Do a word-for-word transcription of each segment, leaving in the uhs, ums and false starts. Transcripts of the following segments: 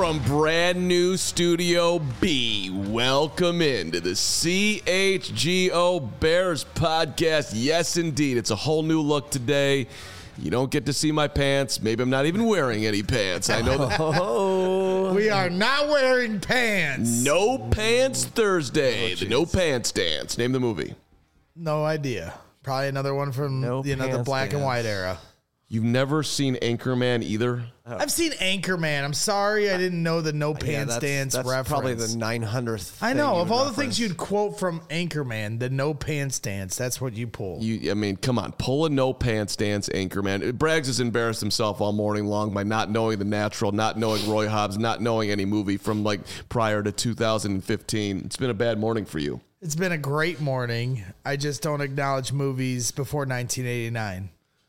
from brand new Studio B, welcome into the C H G O Bears podcast. Yes, indeed. It's a whole new look today. You don't get to see my pants. Maybe I'm not even wearing any pants. I know that. Oh, we are not wearing pants. No Pants Thursday. Oh, the No Pants Dance. Name the movie. No idea. Probably another one from no you know the black dance. and white era. You've never seen Anchorman either? Oh. I've seen Anchorman. I'm sorry I didn't know the No Pants yeah, that's, Dance that's reference. Probably the nine hundredth I know. Of all reference. the things you'd quote from Anchorman, the No Pants Dance, that's what you pull. You, I mean, come on. Pull a No Pants Dance, Anchorman. Braggs has embarrassed himself all morning long by not knowing The Natural, not knowing Roy Hobbs, not knowing any movie from like prior to two thousand fifteen. It's been a bad morning for you. It's been a great morning. I just don't acknowledge movies before nineteen eighty-nine.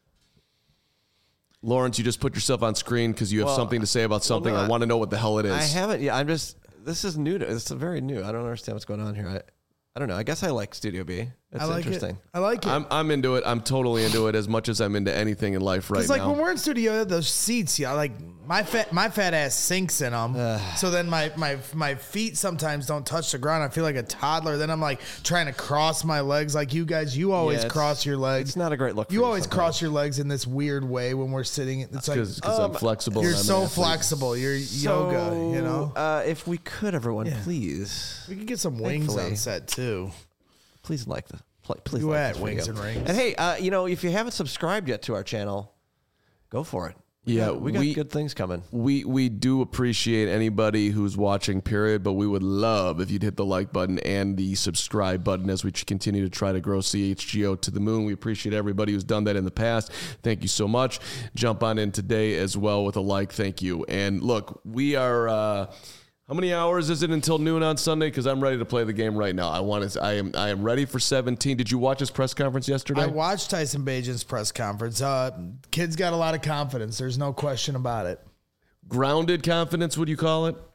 Lawrence, you just put yourself on screen because you have well, something to say about something. Well, no, I want to know what the hell it is. I haven't. Yeah, I'm just. This is new. To, it's very new. I don't understand what's going on here. I, I don't know. I guess I like Studio B. It's I like interesting. It. I like it. I'm, I'm into it. I'm totally into it as much as I'm into anything in life right now. It's like when we're in studio, those seats, yeah, like my fat, my fat ass sinks in them. Uh, so then my, my, my feet sometimes don't touch the ground. I feel like a toddler. Then I'm like trying to cross my legs. Like you guys, you always yeah, cross your legs. It's not a great look. For you you always sometimes. cross your legs in this weird way when we're sitting. It's That's like because um, I'm flexible. You're and I'm so flexible. You're so, yoga. You know. Uh, if we could, everyone, yeah. please. We could get some wings Thankfully. on set too. Please like the. Please you like at Wings and Rings. And hey, uh, you know, if you haven't subscribed yet to our channel, go for it. We yeah, got, we got we, good things coming. We we do appreciate anybody who's watching, period, but we would love if you'd hit the like button and the subscribe button as we continue to try to grow C H G O to the moon. We appreciate everybody who's done that in the past. Thank you so much. Jump on in today as well with a like. Thank you. And look, we are... Uh, How many hours is it until noon on Sunday? Because I'm ready to play the game right now. I want to. I am. I am ready for seventeen. Did you watch his press conference yesterday? I watched Tyson Bagent's press conference. Uh, kid's got a lot of confidence. There's no question about it. Grounded confidence, would you call it?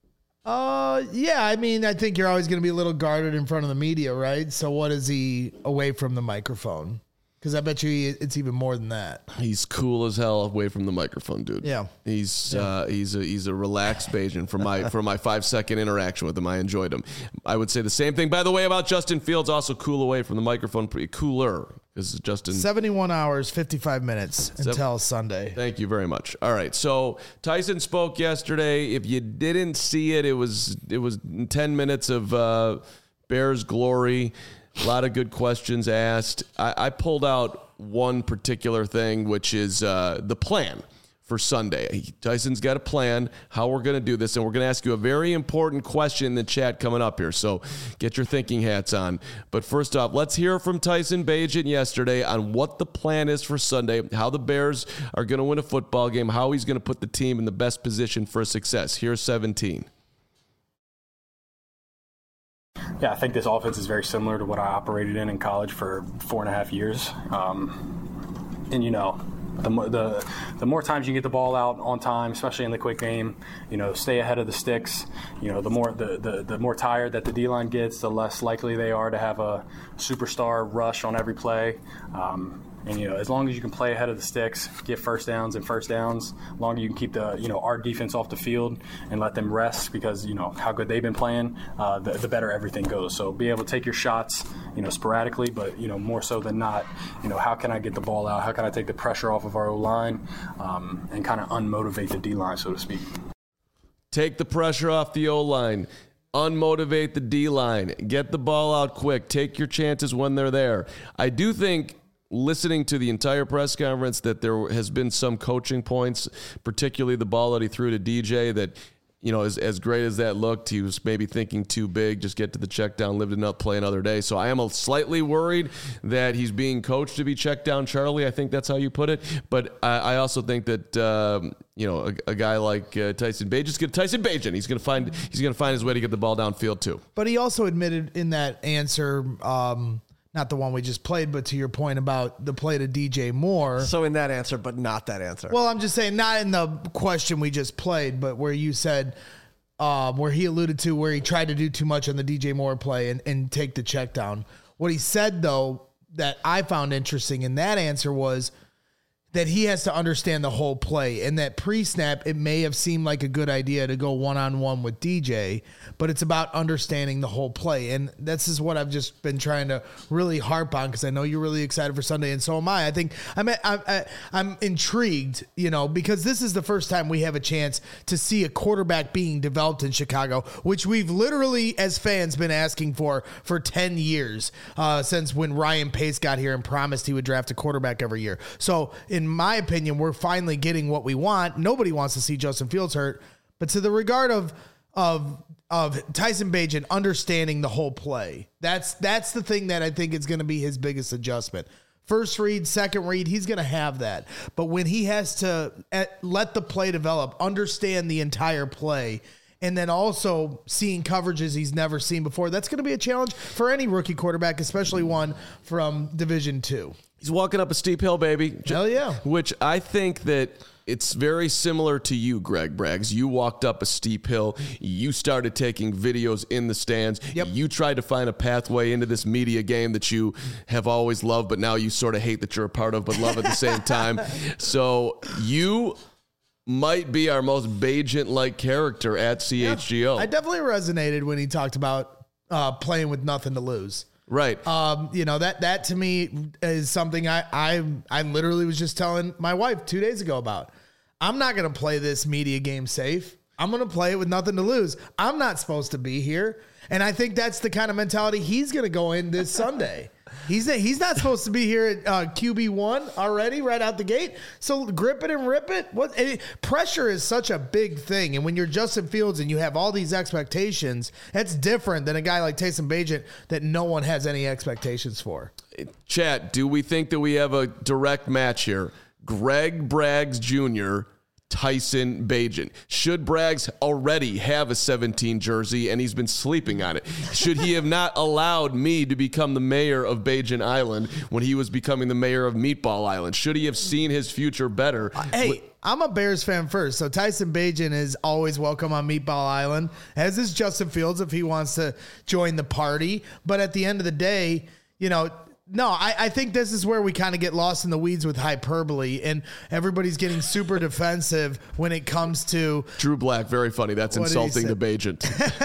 Uh, yeah. I mean, I think you're always going to be a little guarded in front of the media, right? So what is he away from the microphone? Because I bet you it's even more than that. He's cool as hell away from the microphone, dude. Yeah, he's yeah. Uh, he's a he's a relaxed Bajan. For my for my five second interaction with him, I enjoyed him. I would say the same thing, by the way, about Justin Fields. Also cool away from the microphone, pretty cooler because Justin. seventy-one hours, fifty-five minutes until Seven, Sunday. Thank you very much. All right, so Tyson spoke yesterday. If you didn't see it, it was it was ten minutes of uh, Bears glory. A lot of good questions asked. I, I pulled out one particular thing, which is uh, the plan for Sunday. Tyson's got a plan, how we're going to do this, and we're going to ask you a very important question in the chat coming up here, so get your thinking hats on. But first off, let's hear from Tyson Bagent yesterday on what the plan is for Sunday, how the Bears are going to win a football game, how he's going to put the team in the best position for success. Here's seventeen. Yeah, I think this offense is very similar to what I operated in in college for four and a half years. Um, and, you know, the, the the more times you get the ball out on time, especially in the quick game, you know, stay ahead of the sticks. You know, the more the, the, the more tired that the D-line gets, the less likely they are to have a superstar rush on every play. Um, And, you know, as long as you can play ahead of the sticks, get first downs and first downs, as long as you can keep the, you know, our defense off the field and let them rest because, you know, how good they've been playing, uh, the, the better everything goes. So be able to take your shots, you know, sporadically, but, you know, more so than not, you know, how can I get the ball out? How can I take the pressure off of our O-line um, and kind of unmotivate the D-line, so to speak? Take the pressure off the O-line. Unmotivate the D-line. Get the ball out quick. Take your chances when they're there. I do think, listening to the entire press conference, that there has been some coaching points, particularly the ball that he threw to D J, that, you know, as, as great as that looked, he was maybe thinking too big, just get to the check down, live enough, play another day. So I am a slightly worried that he's being coached to be check down Charlie. I think that's how you put it. But I, I also think that, um, you know, a, a guy like uh, Tyson Bagent, get Tyson Bagent. He's going to find he's going to find his way to get the ball downfield too. But he also admitted in that answer, um, not the one we just played, but to your point about the play to D J Moore. So in that answer, but not that answer. Well, I'm just saying, not in the question we just played, but where you said, um, where he alluded to where he tried to do too much on the D J Moore play and, and take the check down. What he said, though, that I found interesting in that answer was that he has to understand the whole play, and that pre-snap, it may have seemed like a good idea to go one-on-one with D J, but it's about understanding the whole play. And this is what I've just been trying to really harp on, because I know you're really excited for Sunday, and so am I. I think I'm, I'm, I'm intrigued, you know, because this is the first time we have a chance to see a quarterback being developed in Chicago, which we've literally, as fans, been asking for for ten years, uh, since when Ryan Pace got here and promised he would draft a quarterback every year. So in my opinion, we're finally getting what we want. Nobody wants to see Justin Fields hurt, but to the regard of of of Tyson Bagent understanding the whole play, that's that's the thing that I think is going to be his biggest adjustment. First read, second read, he's going to have that. But when he has to let the play develop, understand the entire play, and then also seeing coverages he's never seen before, that's going to be a challenge for any rookie quarterback, especially one from Division Two. He's walking up a steep hill, baby. Hell yeah. Which I think that it's very similar to you, Greg Braggs. You walked up a steep hill. You started taking videos in the stands. Yep. You tried to find a pathway into this media game that you have always loved, but now you sort of hate that you're a part of, but love at the same time. So you might be our most Bagent-like character at C H G O. Yeah, I definitely resonated when he talked about uh, playing with nothing to lose. Right. Um, you know, that that to me is something I, I I literally was just telling my wife two days ago about. I'm not going to play this media game safe. I'm going to play it with nothing to lose. I'm not supposed to be here. And I think that's the kind of mentality he's going to go in this Sunday. He's he's not supposed to be here at uh, Q B one already right out the gate. So grip it and rip it. What it, pressure is such a big thing, and when you're Justin Fields and you have all these expectations, that's different than a guy like Tyson Bagent that no one has any expectations for. Chat, do we think that we have a direct match here? Greg Braggs Junior, Tyson Bagent. Should Braggs already have a seventeen jersey and he's been sleeping on it? Should he have not allowed me to become the mayor of Bagent Island when he was becoming the mayor of Meatball Island? Should he have seen his future better? Uh, hey, I'm a Bears fan first, so Tyson Bagent is always welcome on Meatball Island, as is Justin Fields if he wants to join the party. But at the end of the day, you know, No, I, I think this is where we kind of get lost in the weeds with hyperbole, and everybody's getting super defensive when it comes to Drew Black. Very funny. That's insulting to Bagent.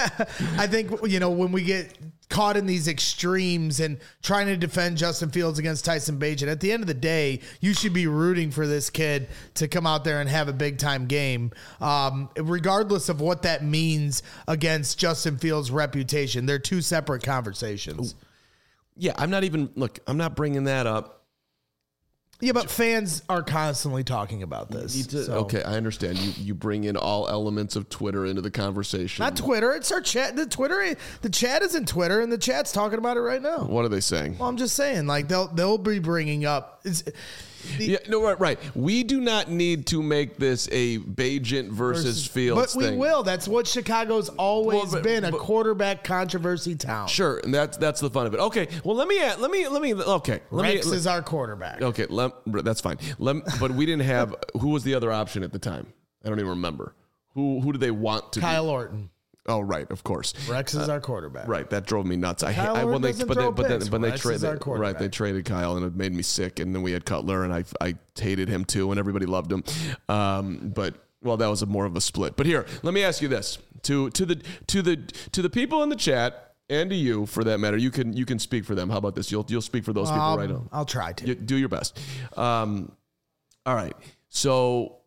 I think, you know, when we get caught in these extremes and trying to defend Justin Fields against Tyson Bagent, at the end of the day, you should be rooting for this kid to come out there and have a big time game, um, regardless of what that means against Justin Fields' reputation. They're two separate conversations. Ooh. Yeah, I'm not even, look, I'm not bringing that up. Yeah, but fans are constantly talking about this. To, so. Okay, I understand. You you bring in all elements of Twitter into the conversation. Not Twitter. It's our chat. The Twitter, the chat isn't Twitter, and the chat's talking about it right now. What are they saying? Well, I'm just saying, like they'll they'll be bringing up. It's, the, yeah, no, right, right. We do not need to make this a Bagent versus, versus Fields but thing. We will. That's what Chicago's always well, but, been, a but, quarterback controversy town. Sure, and that's that's the fun of it. Okay, well let me let me let me okay. Let Rex me, is our quarterback. Okay, let, that's fine. Let, but we didn't have who was the other option at the time? I don't even remember. Who who did they want to? Kyle be? Orton. Oh right, of course. Rex is uh, our quarterback. Right, that drove me nuts. I, Kyle I when they doesn't but throw then but then picks. but they Rex is traded our quarterback. right. They traded Kyle and it made me sick. And then we had Cutler and I I hated him too and everybody loved him. Um, but well, that was a more of a split. But here, let me ask you this to to the to the to the people in the chat and to you for that matter. You can you can speak for them. How about this? You'll you'll speak for those people um, right now. I'll try to. You, do your best. Um, all right. So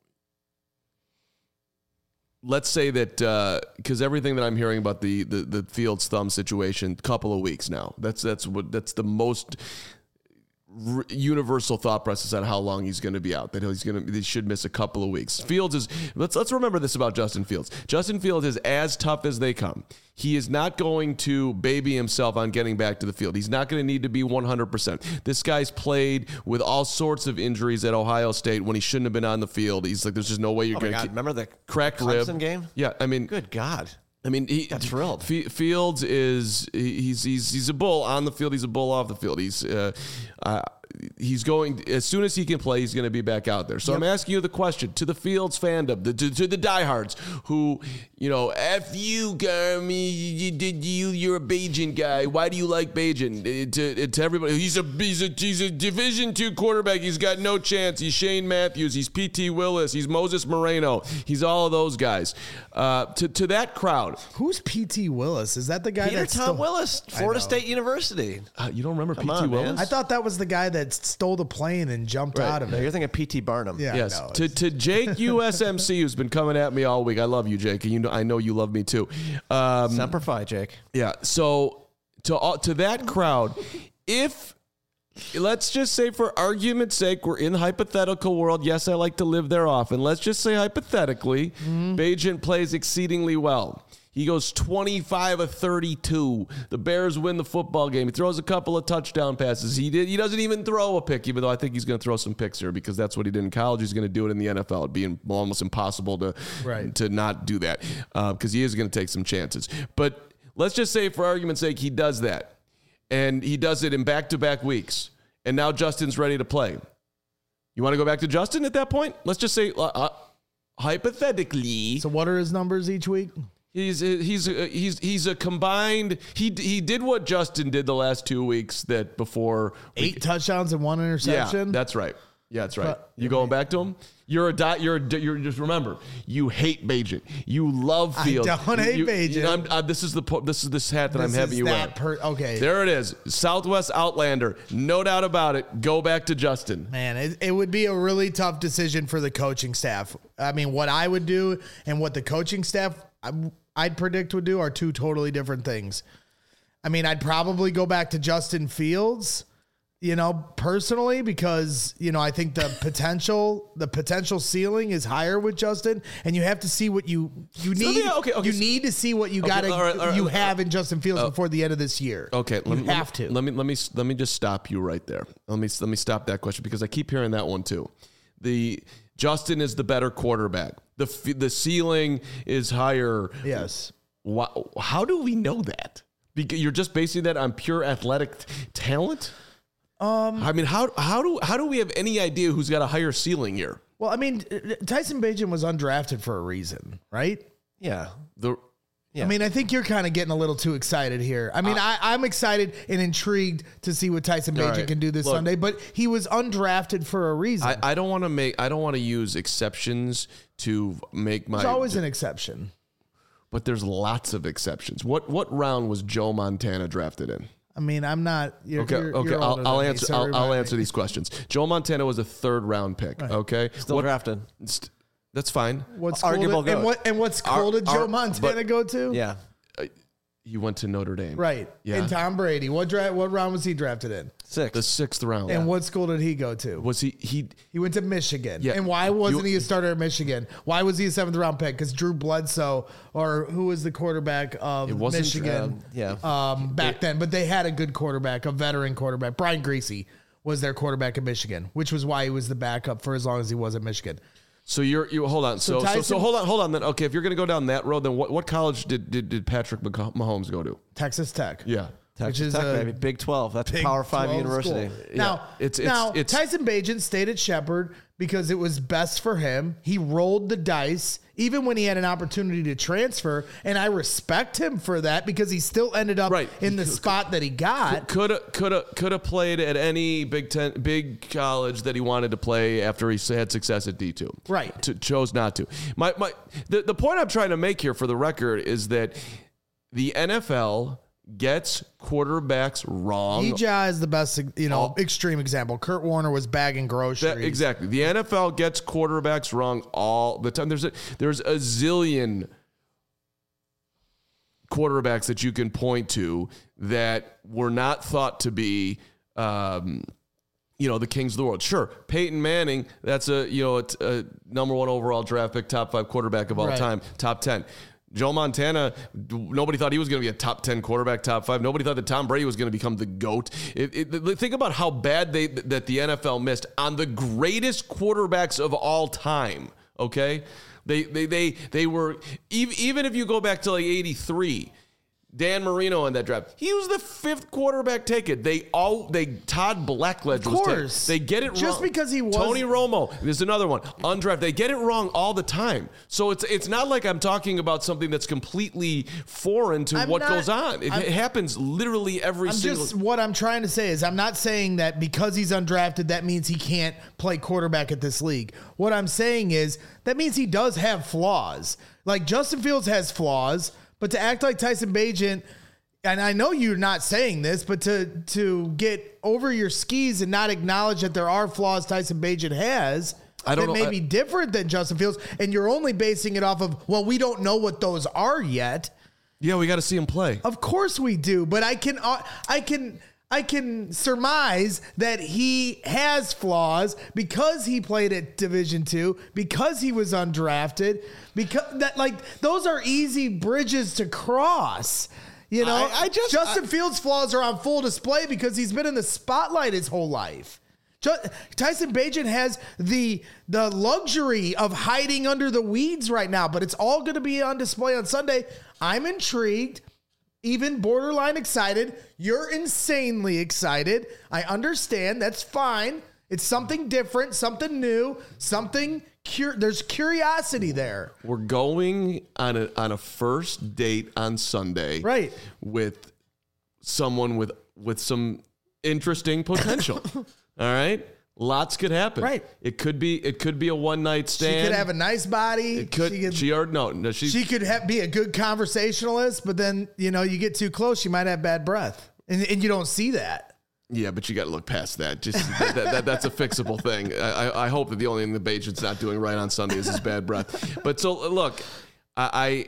let's say that because uh, everything that I'm hearing about the, the the Fields thumb situation, couple of weeks now. That's that's what that's the most r- universal thought process on how long he's going to be out. That he's going to he should miss a couple of weeks. Fields is let's let's remember this about Justin Fields. Justin Fields is as tough as they come. He is not going to baby himself on getting back to the field. He's not going to need to be one hundred percent. This guy's played with all sorts of injuries at Ohio State when he shouldn't have been on the field. He's like, there's just no way you're oh going to keep... Remember the cracked Clemson rib game? Yeah, I mean... Good God. I mean, he got thrilled. F- Fields is he's he's he's a bull on the field. He's a bull off the field. He's uh, uh, he's going as soon as he can play. He's going to be back out there. So yep. I'm asking you the question to the Fields fandom, the, to, to the diehards who, you know, F you, Garmy, you did you, you're a Bajan guy. Why do you like Bajan? To, to everybody, he's a he's a he's a Division two quarterback. He's got no chance. He's Shane Matthews. He's P T Willis. He's Moses Moreno. He's all of those guys. Uh, to to that crowd, who's P T Willis? Is that the guy? Peter that's Tom still- Willis, Florida State University. Uh, you don't remember P T on, Willis? man. I thought that was the guy that stole the plane and jumped Right. out of No, it. you're thinking P T Barnum. Yeah, Yes. no, to to Jake U S M C, who's been coming at me all week. I love you, Jake, and you know I know you love me too. Um, Semper Fi, Jake. yeah. So to all, to that crowd, if let's just say for argument's sake, we're in the hypothetical world. Yes, I like to live there often. Let's just say hypothetically, mm-hmm. Bagent plays exceedingly well. He goes twenty-five of thirty-two. The Bears win the football game. He throws a couple of touchdown passes. He did. He doesn't even throw a pick, even though I think he's going to throw some picks here because that's what he did in college. He's going to do it in the N F L. It'd be almost impossible to, right. to not do that because uh, he is going to take some chances. But let's just say, for argument's sake, he does that. And he does it in back-to-back weeks. And now Justin's ready to play. You want to go back to Justin at that point? Let's just say, uh, uh, hypothetically. So what are his numbers each week? He's he's he's he's a combined. He he did what Justin did the last two weeks. That before eight we, touchdowns and one interception. Yeah, that's right. Yeah, that's right. But, you going back to him? You're a dot. You're a, you're just remember. You hate Bagent. You love Fields. I don't hate you, Bagent. You know, I'm, uh, this is the this is this hat that this I'm having is you that wear. Per, okay, There it is. Southwest Outlander. No doubt about it. Go back to Justin. Man, it, it would be a really tough decision for the coaching staff. I mean, what I would do and what the coaching staff I, I'd predict would do are two totally different things. I mean, I'd probably go back to Justin Fields, you know, personally, because, you know, I think the potential, the potential ceiling is higher with Justin, and you have to see what you, you So, need. yeah, okay, okay, you so- need to see what you Okay, got to, all right, all right, you all right. have in Justin Fields before the end of this year. Okay, you let me, have let me, to. Let me let me let me just stop you right there. Let me let me stop that question because I keep hearing that one too. The Justin is the better quarterback. The f- the ceiling is higher. Yes. Why, how do we know that? Because you're just basing that on pure athletic t- talent. Um, I mean, how how do how do we have any idea who's got a higher ceiling here? Well, I mean, Tyson Bagent was undrafted for a reason, right? Yeah. The Yeah. I mean, I think you're kind of getting a little too excited here. I mean, I, I'm excited and intrigued to see what Tyson All Bagent right. can do this Look, Sunday, but he was undrafted for a reason. I, I don't want to make I don't want to use exceptions to make my. There's always an exception. But there's lots of exceptions. What what round was Joe Montana drafted in? I mean, I'm not. You're, Okay, you're, okay. you're I'll, older I'll than me, answer. so I'll, I'll remind answer me. these questions. Joe Montana was a third round pick. Okay, Still What- drafted. st- That's fine. What school Arguable did, and goat. what and what school Ar- did Joe ar- Montana but- go to? Yeah. He went to Notre Dame. Right. Yeah. And Tom Brady. What dra- What round was he drafted in? Six. The sixth round. And what school did he go to? was he? He He went to Michigan. Yeah. And why wasn't You- he a starter at Michigan? Why was he a seventh round pick? Because Drew Bledsoe, or who was the quarterback of It wasn't, Michigan um, yeah. um, back then? But they had a good quarterback, a veteran quarterback. Brian Greasy was their quarterback at Michigan, which was why he was the backup for as long as he was at Michigan. So you're you hold on. So so, so Tyson- hold on hold on. Then okay, if you're going to go down that road, then what, what college did, did did Patrick Mah- Mahomes go to? Texas Tech. Yeah. Texas which is Tech, a baby. Big twelve. That's Big Power Five twelve University. school. Now, It's- it's- now it's- Tyson Bagent stayed at Shepherd because it was best for him. He rolled the dice, even when he had an opportunity to transfer, and I respect him for that because he still ended up Right. in the spot that he got. Could have could have could have played at any Big Ten big college that he wanted to play after he had success at D two. Right. To, chose not to. My my the, the point I'm trying to make here for the record is that the N F L gets quarterbacks wrong. E J is the best, you know, All- extreme example. Kurt Warner was bagging groceries. That- exactly. The N F L gets quarterbacks wrong all the time. There's a there's a zillion quarterbacks that you can point to that were not thought to be um, you know, the kings of the world. Sure, Peyton Manning, that's a, you know, a, a number one overall draft pick, top five quarterback of all Right. time, top ten. Joe Montana, nobody thought he was going to be a top ten quarterback, top five. Nobody thought that Tom Brady was going to become the GOAT. It, it, think about how bad they that the N F L missed on the greatest quarterbacks of all time, okay? They they they they were, even if you go back to like eighty-three, Dan Marino in that draft. He was the fifth quarterback taken. They all they Todd Blackledge Of was course. taken. They get it wrong. Just because he was- Tony Romo. There's another one. Undrafted. They get it wrong all the time. So it's it's not like I'm talking about something that's completely foreign to I'm what not- goes on. It, I'm- it happens literally every I'm single just what I'm trying to say is I'm not saying that because he's undrafted that means he can't play quarterback at this league. What I'm saying is that means he does have flaws. Like Justin Fields has flaws, but to act like Tyson Bagent, and I know you're not saying this, but to to get over your skis and not acknowledge that there are flaws Tyson Bagent has I don't that know. may I- be different than Justin Fields, and you're only basing it off of, well, we don't know what those are yet. Yeah, we got to see him play. Of course we do, but I can uh, I can I can surmise that he has flaws because he played at Division two, because he was undrafted, because that like those are easy bridges to cross. You know, I- I just- Justin I- Fields' flaws are on full display because he's been in the spotlight his whole life. Ju- Tyson Bagent has the the luxury of hiding under the weeds right now, but it's all going to be on display on Sunday. I'm intrigued, even borderline excited. You're insanely excited. I understand. That's fine. It's something different, something new, something cur- there's curiosity there. We're going on a on a first date on Sunday, Right. with someone with with some interesting potential. All right, lots could happen. Right. It could be it could be a one night stand. She could have a nice body. It could. She She, could, already no no she. she could have, be a good conversationalist, but then, you know, you get too close, you might have bad breath. And, and you don't see that. Yeah, but you got to look past that. Just that, that, that's a fixable thing. I, I- I hope that the only thing the Bagent's not doing right on Sunday is his bad breath. But so look, I,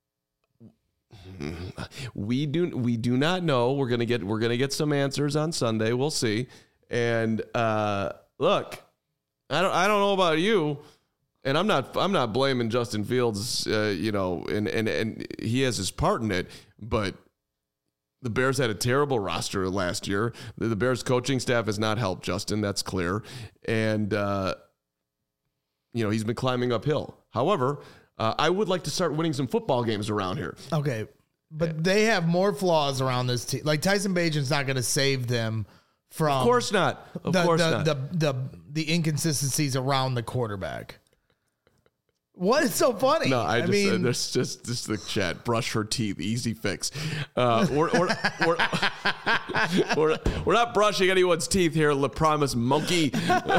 I we do we do not know. We're gonna get we're gonna get some answers on Sunday. We'll see. And uh, look, I don't I don't know about you, and I'm not I'm not blaming Justin Fields. Uh, you know, and and and he has his part in it, but. The Bears had a terrible roster last year. The, the Bears coaching staff has not helped Justin. That's clear. And, uh, you know, he's been climbing uphill. However, uh, I would like to start winning some football games around here. Okay. But they have more flaws around this team. Like Tyson Bagent's not going to save them from Of course not. Of the, course the, not. The, the, the inconsistencies around the quarterback. What is so funny? No, I, just, mean, uh, there's just, just the chat. Brush her teeth. Easy fix. Uh, we're, we're, we're, we're, we're not brushing anyone's teeth here. La promise monkey.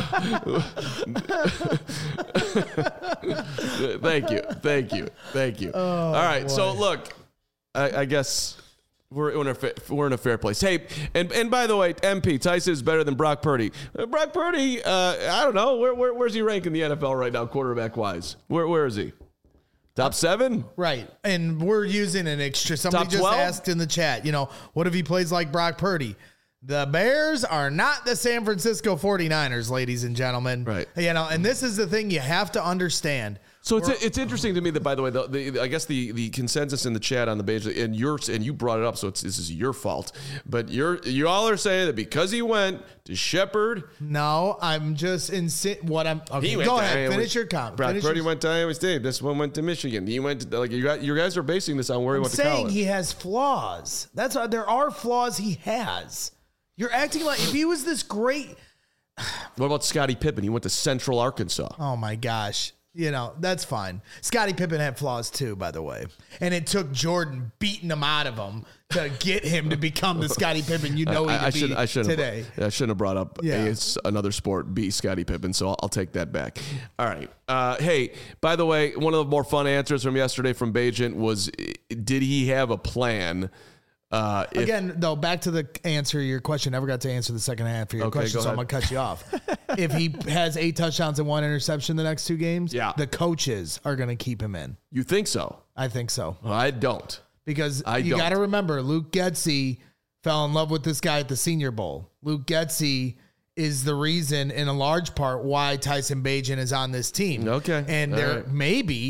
Thank you. Thank you. Thank you. All right. boy. So look, I, I guess we're in a fa- we're in a fair place. Hey, and and by the way, M P Tyson is better than Brock Purdy. Uh, Brock Purdy, uh, I don't know where, where where's he rank in the N F L right now, quarterback wise? Where where is he? Top seven? right. And we're using an extra. Somebody Top just twelve? asked in the chat, you know, what if he plays like Brock Purdy? The Bears are not the San Francisco forty-niners, ladies and gentlemen. Right. You know, and this is the thing you have to understand. So it's it's interesting to me that, by the way, the, the I guess the, the consensus in the chat on the page, and yours and you brought it up, so it's this is your fault. But you're you all are saying that because he went to Shepherd, No, I'm just insi- what I'm. Okay, he went go to ahead. Iowa- Finish your comment. Brock Finish Purdy your- went to Iowa State. This one went to Michigan. He went to, like you got you guys are basing this on where he I'm went to saying college. he has flaws. That's why there are flaws he has. You're acting like if he was this great. What about Scottie Pippen? He went to Central Arkansas. Oh my gosh. You know, that's fine. Scottie Pippen had flaws too, by the way. And it took Jordan beating him out of him to get him to become the Scottie Pippen you know he I, could I be should I shouldn't today. Have, I shouldn't have brought up Yeah. A, it's another sport. B, Scottie Pippen. So I'll, I'll take that back. All right. Uh, hey, by the way, one of the more fun answers from yesterday from Bagent was, did he have a plan? Uh, if, Again, though, back to the answer to your question. Never got to answer the second half of your Okay, question, go so I'm ahead. going to cut you off. If he has eight touchdowns and one interception the next two games, Yeah. the coaches are going to keep him in. you think so? I think so. Well, I don't. Because I you don't. got to remember, Luke Getsy fell in love with this guy at the Senior Bowl. Luke Getsy is the reason, in a large part, why Tyson Bagent is on this team. Okay. And All there right. maybe,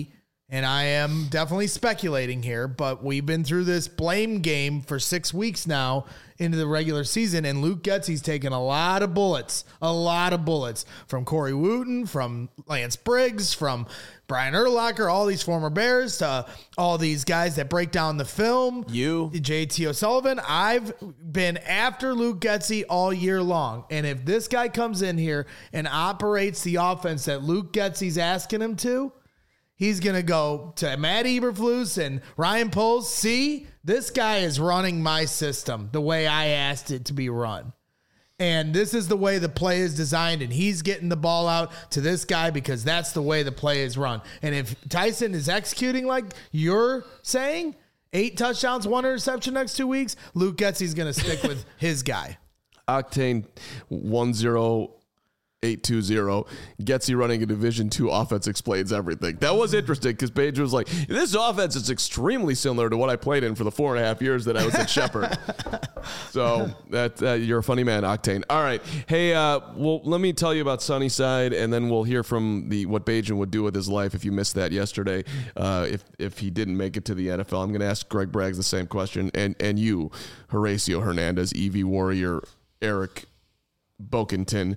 and I am definitely speculating here, but we've been through this blame game for six weeks now into the regular season, and Luke Getsy's taken a lot of bullets, a lot of bullets from Corey Wooten, from Lance Briggs, from Brian Urlacher, all these former Bears, to all these guys that break down the film. You. J T O'Sullivan. I've been after Luke Getsy all year long, and if this guy comes in here and operates the offense that Luke Getsy's asking him to, he's going to go to Matt Eberflus and Ryan Poles. See, this guy is running my system the way I asked it to be run. And this is the way the play is designed, and he's getting the ball out to this guy because that's the way the play is run. And if Tyson is executing like you're saying, eight touchdowns, one interception next two weeks, Luke Getsy's going to stick with his guy. Octane one zero eight two zero. Getsy running a Division two offense explains everything. That was interesting because Page was like, this offense is extremely similar to what I played in for the four and a half years that I was at Shepherd. So that uh, you're a funny man, Octane. All right. Hey, uh, well, let me tell you about Sunnyside, and then we'll hear from the what Bajan would do with his life if you missed that yesterday. Uh, if if he didn't make it to the N F L, I'm going to ask Greg Braggs the same question, and and you, Horacio Hernandez, E V Warrior, Eric Bokenton,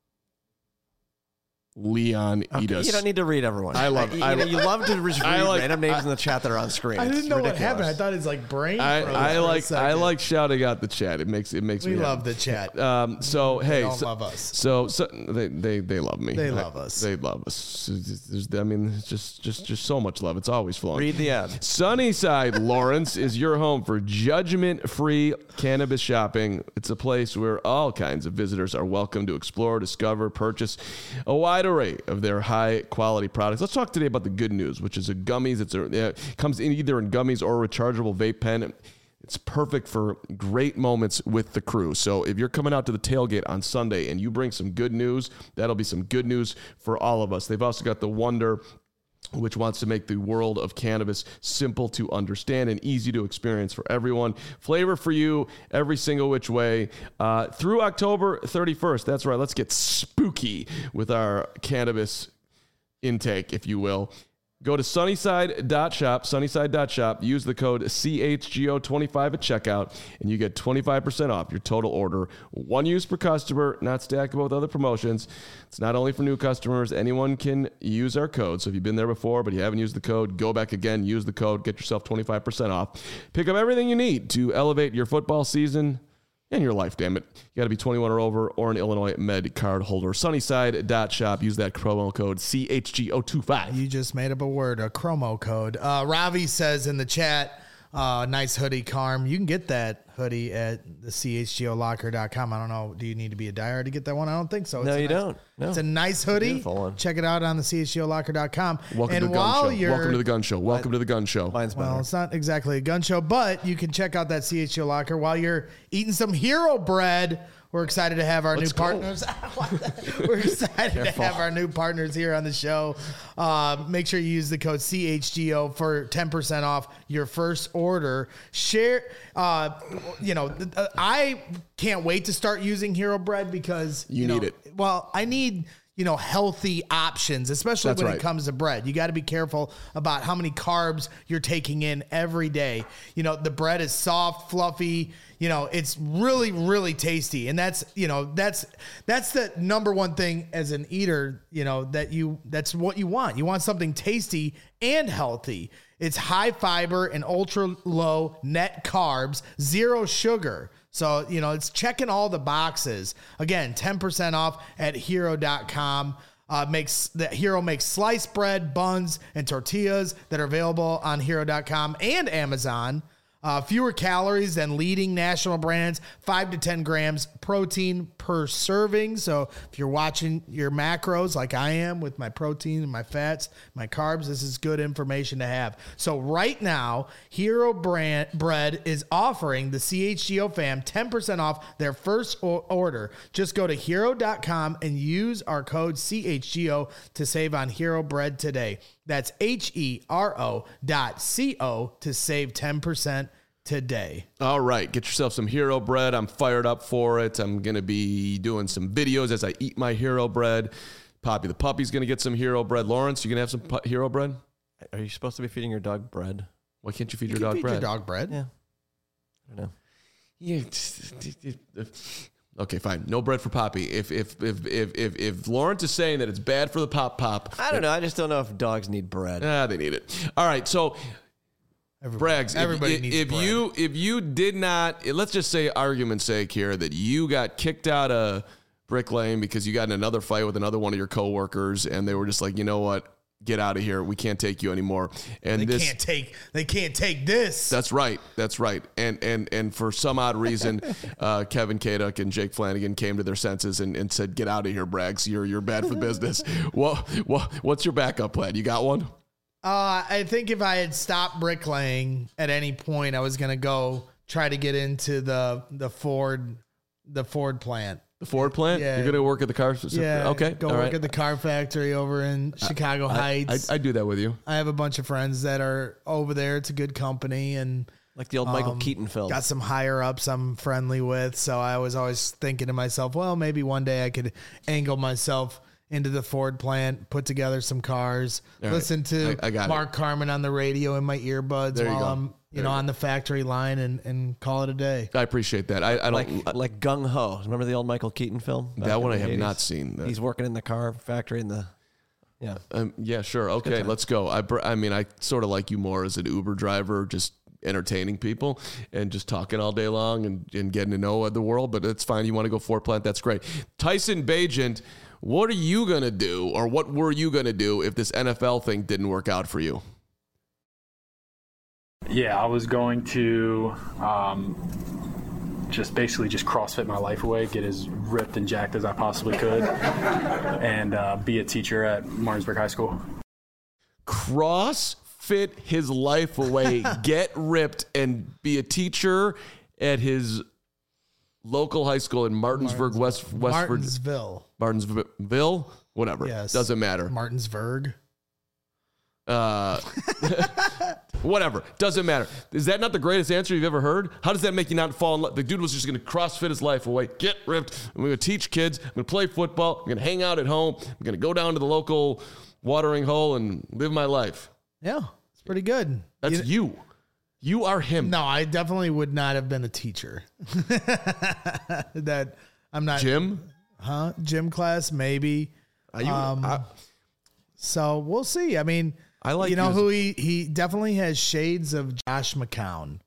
Leon Okay, Edis. you don't need to read everyone. I love- I, you, I know, lo- you love to read I like- random names in the chat that are on screen. I It's didn't know ridiculous. what happened. I thought his like brain. I, froze I for a like I second. like shouting out the chat. It makes it makes We me love happy. the chat. Um, so hey, don't so, love us. So, so they, they they love me. They I- love us. They love us. There's, I mean, it's just just just so much love. It's always flowing. Read the ad. Sunnyside, Lawrence, is your home for judgment-free cannabis shopping. It's a place where all kinds of visitors are welcome to explore, discover, purchase a wide array of their high-quality products. Let's talk today about the good news, which is a gummies. It's a, it comes in either in gummies or a rechargeable vape pen. It's perfect for great moments with the crew. So if you're coming out to the tailgate on Sunday and you bring some good news, that'll be some good news for all of us. They've also got the Wonder, which wants to make the world of cannabis simple to understand and easy to experience for everyone. Flavor for you every single which way uh, through October thirty-first. That's right. Let's get spooky with our cannabis intake, if you will. Go to sunnyside dot shop, sunnyside dot shop, use the code C H G O twenty-five at checkout, and you get twenty-five percent off your total order. One use per customer, not stackable with other promotions. It's not only for new customers. Anyone can use our code. So if you've been there before, but you haven't used the code, go back again, use the code, get yourself twenty-five percent off. Pick up everything you need to elevate your football season and your life, damn it. You got to be twenty-one or over or an Illinois Med card holder. Sunnyside dot shop. Use that promo code C H G O twenty-five. You just made up a word, a chromo code. Uh, Ravi says in the chat, uh, nice hoodie, Carm. You can get that hoodie at the C H G O locker dot com. I don't know. Do you need to be a diehard to get that one? I don't think so. It's No, a you nice, don't. No. It's a nice hoodie. Beautiful one. Check it out on the C H G O locker dot com. Welcome and to the gun while show. you're, Welcome to the gun show. Welcome to the gun show. Mine's better. Well, it's not exactly a gun show, but you can check out that C H G O locker while you're eating some Hero Bread. We're excited to have our Let's new go. partners. We're excited to have our new partners here on the show. Uh, make sure you use the code C H G O for ten percent off your first order. Share, uh, you know, I can't wait to start using Hero Bread because You know, need it. Well, I need, you know, healthy options, especially That's when right. it comes to bread. You got to be careful about how many carbs you're taking in every day. You know, the bread is soft, fluffy, you know, it's really, really tasty. And that's, you know, that's, that's the number one thing as an eater, you know, that you, that's what you want. You want something tasty and healthy. It's high fiber and ultra low net carbs, zero sugar. So, you know, it's checking all the boxes. Again, ten percent off at hero dot com. Uh, makes the Hero makes sliced bread, buns, and tortillas that are available on hero dot com and Amazon. Uh, fewer calories than leading national brands, five to ten grams protein per serving. So if you're watching your macros like I am with my protein and my fats, my carbs, this is good information to have. So right now, Hero brand Bread is offering the C H G O fam ten percent off their first o- order. Just go to hero dot com and use our code C H G O to save on Hero Bread today. That's H E R O dot C O to save ten percent today. All right, get yourself some Hero Bread. I'm fired up for it. I'm going to be doing some videos as I eat my Hero Bread. Poppy the puppy's going to get some Hero Bread. Lawrence, you going to have some pu- Hero Bread? Are you supposed to be feeding your dog bread? Why can't you feed You your can dog feed bread? your dog bread. Yeah. I don't know. Yeah. Okay, fine. No bread for Poppy. If if if if if, if Lawrence is saying that it's bad for the pop pop, I don't know. I just don't know if dogs need bread. ah, they need it. All right, so. Everybody, Braggs, everybody if, needs if bread. you if you did not, let's just say argument's sake here that you got kicked out of Brick Lane because you got in another fight with another one of your coworkers and they were just like, you know what, get out of here, we can't take you anymore. And they this can't take they can't take this. that's right. That's right. And and and for some odd reason, uh, Kevin Kaduk and Jake Flanagan came to their senses and, and said, get out of here, Braggs, you're you're bad for business. Well, well, what's your backup plan? You got one? Uh, I think if I had stopped bricklaying at any point, I was gonna go try to get into the the Ford the Ford plant. The Ford plant? Yeah. You're going to work at the car? Yeah. Okay. Go all work right. at the car factory over in Chicago I, Heights. I, I, I do that with you. have a bunch of friends that are over there. It's a good company and Like the old Michael Um, Keaton film. got some higher ups I'm friendly with. So I was always thinking to myself, well, maybe one day I could angle myself into the Ford plant, put together some cars, All right. listen to I- I got it. Mark Carmen on the radio in my earbuds There you while go. I'm, you There know, you on the factory line and, and call it a day. I appreciate that. I, I don't. like like Gung Ho. Remember the old Michael Keaton film? Back that in one the I have eighties? not seen. That- He's working in the car factory in the. Yeah. Um, yeah, sure. Okay, let's go. I, br- I mean, I sort of like you more as an Uber driver, just entertaining people and just talking all day long and, and getting to know the world. But it's fine. You want to go Ford plant? That's great. Tyson Bagent, what are you gonna do, or what were you gonna do if this N F L thing didn't work out for you? Yeah, I was going to um, just basically just CrossFit my life away, get as ripped and jacked as I possibly could, and uh, be a teacher at Martinsburg High School. CrossFit his life away, get ripped, and be a teacher at his local high school in Martinsburg, West West Virginia. Martinsville. Martinsville, whatever. Yes. Doesn't matter. Martinsburg. Uh, whatever. Doesn't matter. Is that not the greatest answer you've ever heard? How does that make you not fall in love? The dude was just going to CrossFit his life away, get ripped. I'm going to teach kids. I'm going to play football. I'm going to hang out at home. I'm going to go down to the local watering hole and live my life. Yeah, it's pretty good. That's You- you. You are him. No, I definitely would not have been a teacher. That I'm not. Jim? Huh? Gym class, maybe. Are you, Um, I, So we'll see. I mean, I like you know you as- who he he definitely has shades of Josh McCown.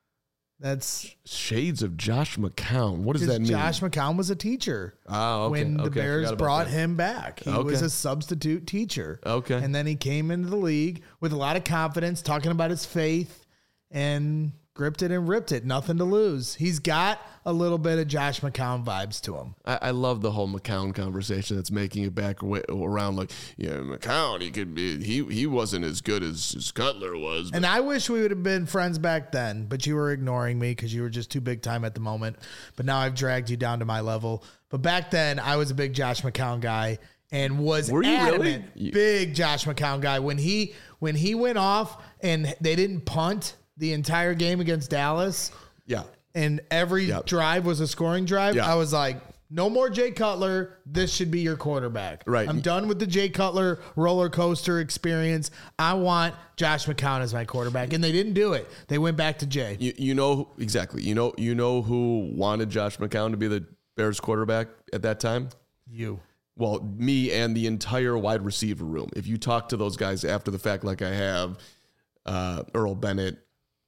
That's shades of Josh McCown. What does because that mean? Josh McCown was a teacher Ah, okay, when the okay, I Bears forgot about brought that. him back. He Okay. was a substitute teacher. Okay. And then he came into the league with a lot of confidence, talking about his faith, and gripped it and ripped it. Nothing to lose. He's got a little bit of Josh McCown vibes to him. I, I love the whole McCown conversation that's making it back wa- around like, yeah, McCown, he could be, he he wasn't as good as, as Cutler was. And I wish we would have been friends back then, but you were ignoring me because you were just too big time at the moment. But now I've dragged you down to my level. But back then, I was a big Josh McCown guy and was Were you adamant, really? big Josh McCown guy. When he when he went off and they didn't punt the entire game against Dallas, yeah. and every Yep. drive was a scoring drive, Yeah. I was like, no more Jay Cutler. This should be your quarterback. Right. I'm done with the Jay Cutler roller coaster experience. I want Josh McCown as my quarterback. And they didn't do it. They went back to Jay. You you know exactly. You know you know who wanted Josh McCown to be the Bears quarterback at that time? You. Well, me and the entire wide receiver room. If you talk to those guys after the fact, like I have, uh, Earl Bennett,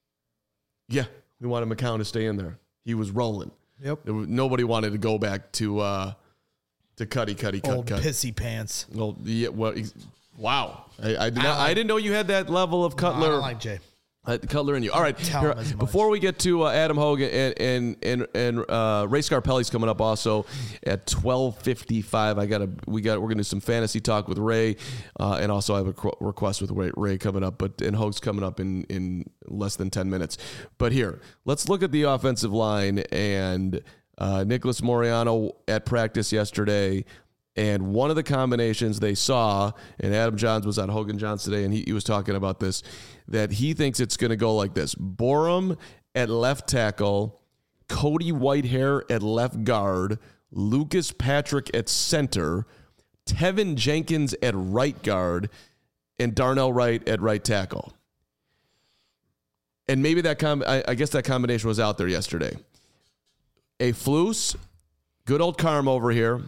yeah, we wanted McCown to stay in there. He was rolling. Yep. There was, nobody wanted to go back to uh, to Cuddy, Cuddy, cut, Old cut. pissy pants. Well, yeah, well, ex- wow. I, I did I not. like- I didn't know you had that level of I Cutler. don't like Jay. Uh, Cutler in you. All right. Tell Here, him as much. before we get to uh, Adam Hogan and and and, and uh, Ray Scarpelli's coming up also at twelve fifty-five. I got to we got we're gonna do some fantasy talk with Ray, uh, and also I have a qu- request with Ray, Ray coming up, but and Hogan's coming up in in less than ten minutes. But here, let's look at the offensive line and uh, Nicholas Moriano at practice yesterday. And one of the combinations they saw, and Adam Johns was on Hogan Johns today, and he, he was talking about this, that he thinks it's going to go like this. Borum at left tackle, Cody Whitehair at left guard, Lucas Patrick at center, Tevin Jenkins at right guard, and Darnell Wright at right tackle. And maybe that com- I, I guess that combination was out there yesterday. A Flus, good old Carm over here.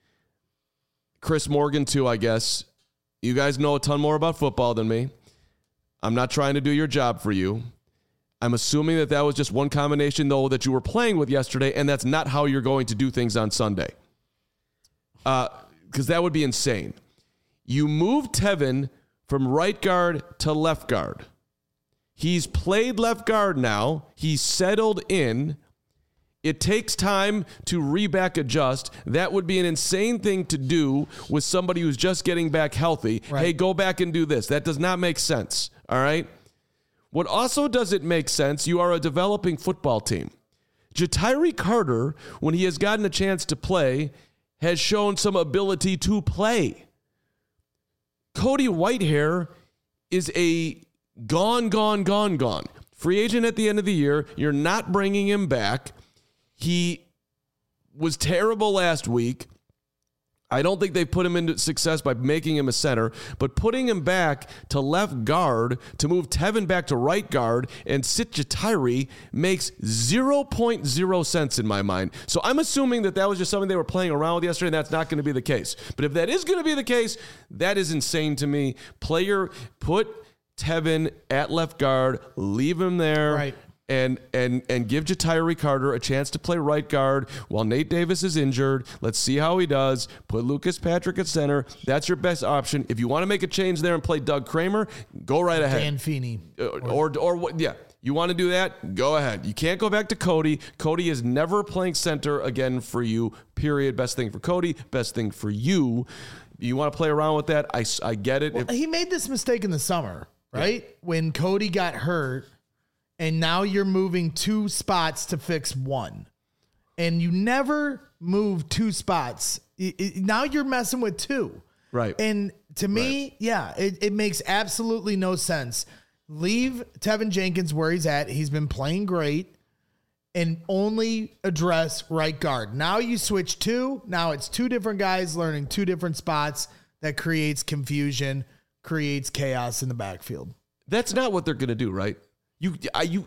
Chris Morgan too, I guess. You guys know a ton more about football than me. I'm not trying to do your job for you. I'm assuming that that was just one combination, though, that you were playing with yesterday, and that's not how you're going to do things on Sunday. Uh, because that would be insane. You move Tevin from right guard to left guard. He's played left guard now. He's settled in. It takes time to re-back adjust. That would be an insane thing to do with somebody who's just getting back healthy. Right. Hey, go back and do this. That does not make sense, all right? What also doesn't make sense, you are a developing football team. Ja'Tyre Carter, when he has gotten a chance to play, has shown some ability to play. Cody Whitehair is a gone, gone, gone, gone. Free agent at the end of the year. You're not bringing him back. He was terrible last week. I don't think they put him into success by making him a center, but putting him back to left guard to move Tevin back to right guard and sit Ja'Tyre makes zero point zero sense in my mind. So I'm assuming that that was just something they were playing around with yesterday, and that's not going to be the case. But if that is going to be the case, that is insane to me. Player, put Tevin at left guard, leave him there. Right. And and and give Ja'Tyre Carter a chance to play right guard while Nate Davis is injured. Let's see how he does. Put Lucas Patrick at center. That's your best option. If you want to make a change there and play Doug Kramer, go right ahead. Dan Feeney. Or, or, or what? Yeah. You want to do that? Go ahead. You can't go back to Cody. Cody is never playing center again for you, period. Best thing for Cody. Best thing for you. You want to play around with that? I, I get it. Well, if, he made this mistake in the summer, right? Yeah. When Cody got hurt. And now you're moving two spots to fix one. And you never move two spots. It, it, now you're messing with two. Right. And to me, right. yeah, it, it makes absolutely no sense. Leave Tevin Jenkins where he's at. He's been playing great. And only address right guard. Now you switch two. Now it's two different guys learning two different spots. That creates confusion, creates chaos in the backfield. That's not what they're going to do, right? You, I, you,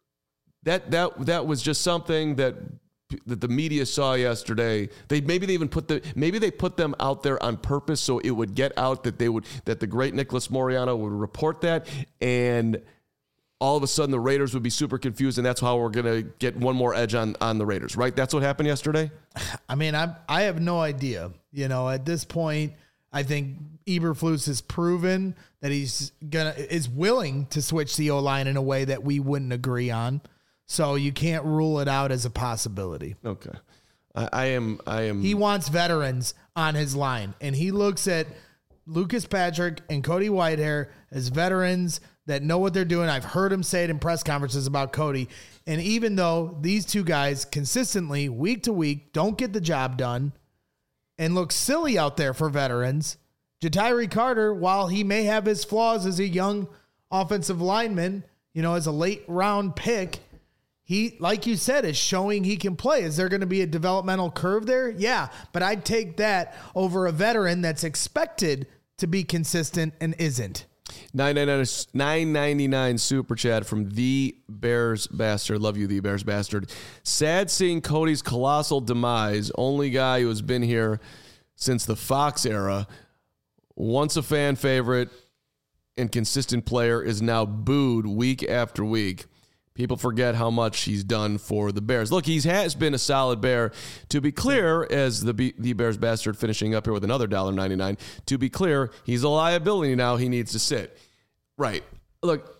that that that was just something that that the media saw yesterday. They maybe they even put the maybe they put them out there on purpose so it would get out that they would that the great Nicholas Moreano would report that, and all of a sudden the Raiders would be super confused, and that's how we're gonna get one more edge on on the Raiders, right? That's what happened yesterday. I mean, I I have no idea. You know, at this point, I think Eberflus has proven that he's gonna is willing to switch the O-line in a way that we wouldn't agree on. So you can't rule it out as a possibility. Okay. I, I am I am He wants veterans on his line, and he looks at Lucas Patrick and Cody Whitehair as veterans that know what they're doing. I've heard him say it in press conferences about Cody. And even though these two guys consistently, week to week, don't get the job done and look silly out there for veterans, Ja'Tyre Carter, while he may have his flaws as a young offensive lineman, you know, as a late round pick, he, like you said, is showing he can play. Is there going to be a developmental curve there? Yeah, but I'd take that over a veteran that's expected to be consistent and isn't. nine ninety-nine super chat from the Bears Bastard. Love you, the Bears Bastard. Sad seeing Cody's colossal demise. Only guy who has been here since the Fox era. Once a fan favorite and consistent player is now booed week after week. People forget how much he's done for the Bears. Look, he has been a solid Bear. To be clear, as the B- the Bears Bastard finishing up here with another one dollar and ninety-nine cents, to be clear, he's a liability now. He needs to sit. Right. Look,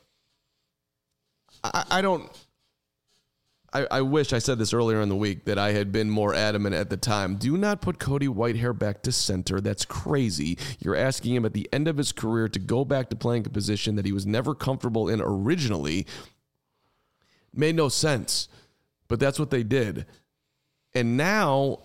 I, I don't... I, I wish I said this earlier in the week that I had been more adamant at the time. Do not put Cody Whitehair back to center. That's crazy. You're asking him at the end of his career to go back to playing a position that he was never comfortable in originally. Made no sense, but that's what they did. And now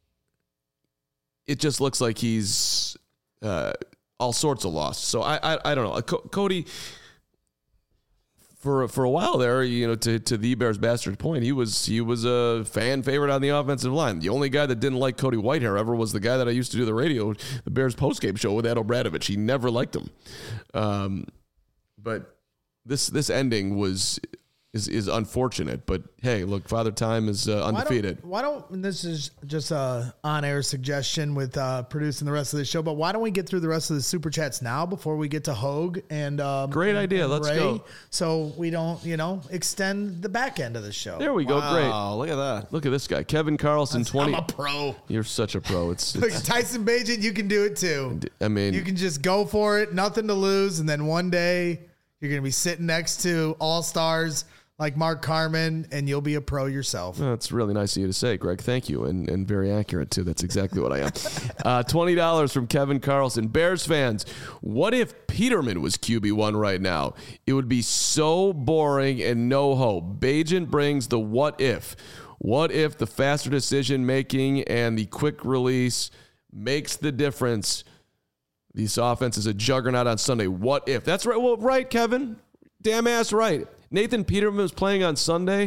it just looks like he's uh, all sorts of lost. So I, I, I don't know. C- Cody, for for a while there, you know, to, to the Bears bastard point, he was he was a fan favorite on the offensive line. The only guy that didn't like Cody Whitehair ever was the guy that I used to do the radio, the Bears postgame show with Ed O'Bradovich. He never liked him. Um, but this this ending was is is unfortunate. But hey, look, Father Time is uh, undefeated. Why don't, why don't and this is just a on-air suggestion with uh, producing the rest of the show, but why don't we get through the rest of the super chats now before we get to Hogue and um, great idea. and Let's Ray, go. So we don't, you know, extend the back end of the show. There we go. Wow, Great. look at that. Look at this guy, Kevin Carlson. twenty. I'm a pro. You're such a pro. It's, Look, it's Tyson Bagent, you can do it too. I mean, You can just go for it, nothing to lose, and then one day you're going to be sitting next to all-stars like Mark Carman, and you'll be a pro yourself. that's really nice of you to say, Greg. Thank you, and and very accurate too. That's exactly what I am. Uh, Twenty dollars from Kevin Carlson. Bears fans, what if Peterman was Q B one right now? It would be so boring and no hope. Bagent brings the what if. What if the faster decision making and the quick release makes the difference? This offense is a juggernaut on Sunday. What if? That's right. Well, right, Kevin. Damn ass right. Nathan Peterman was playing on Sunday.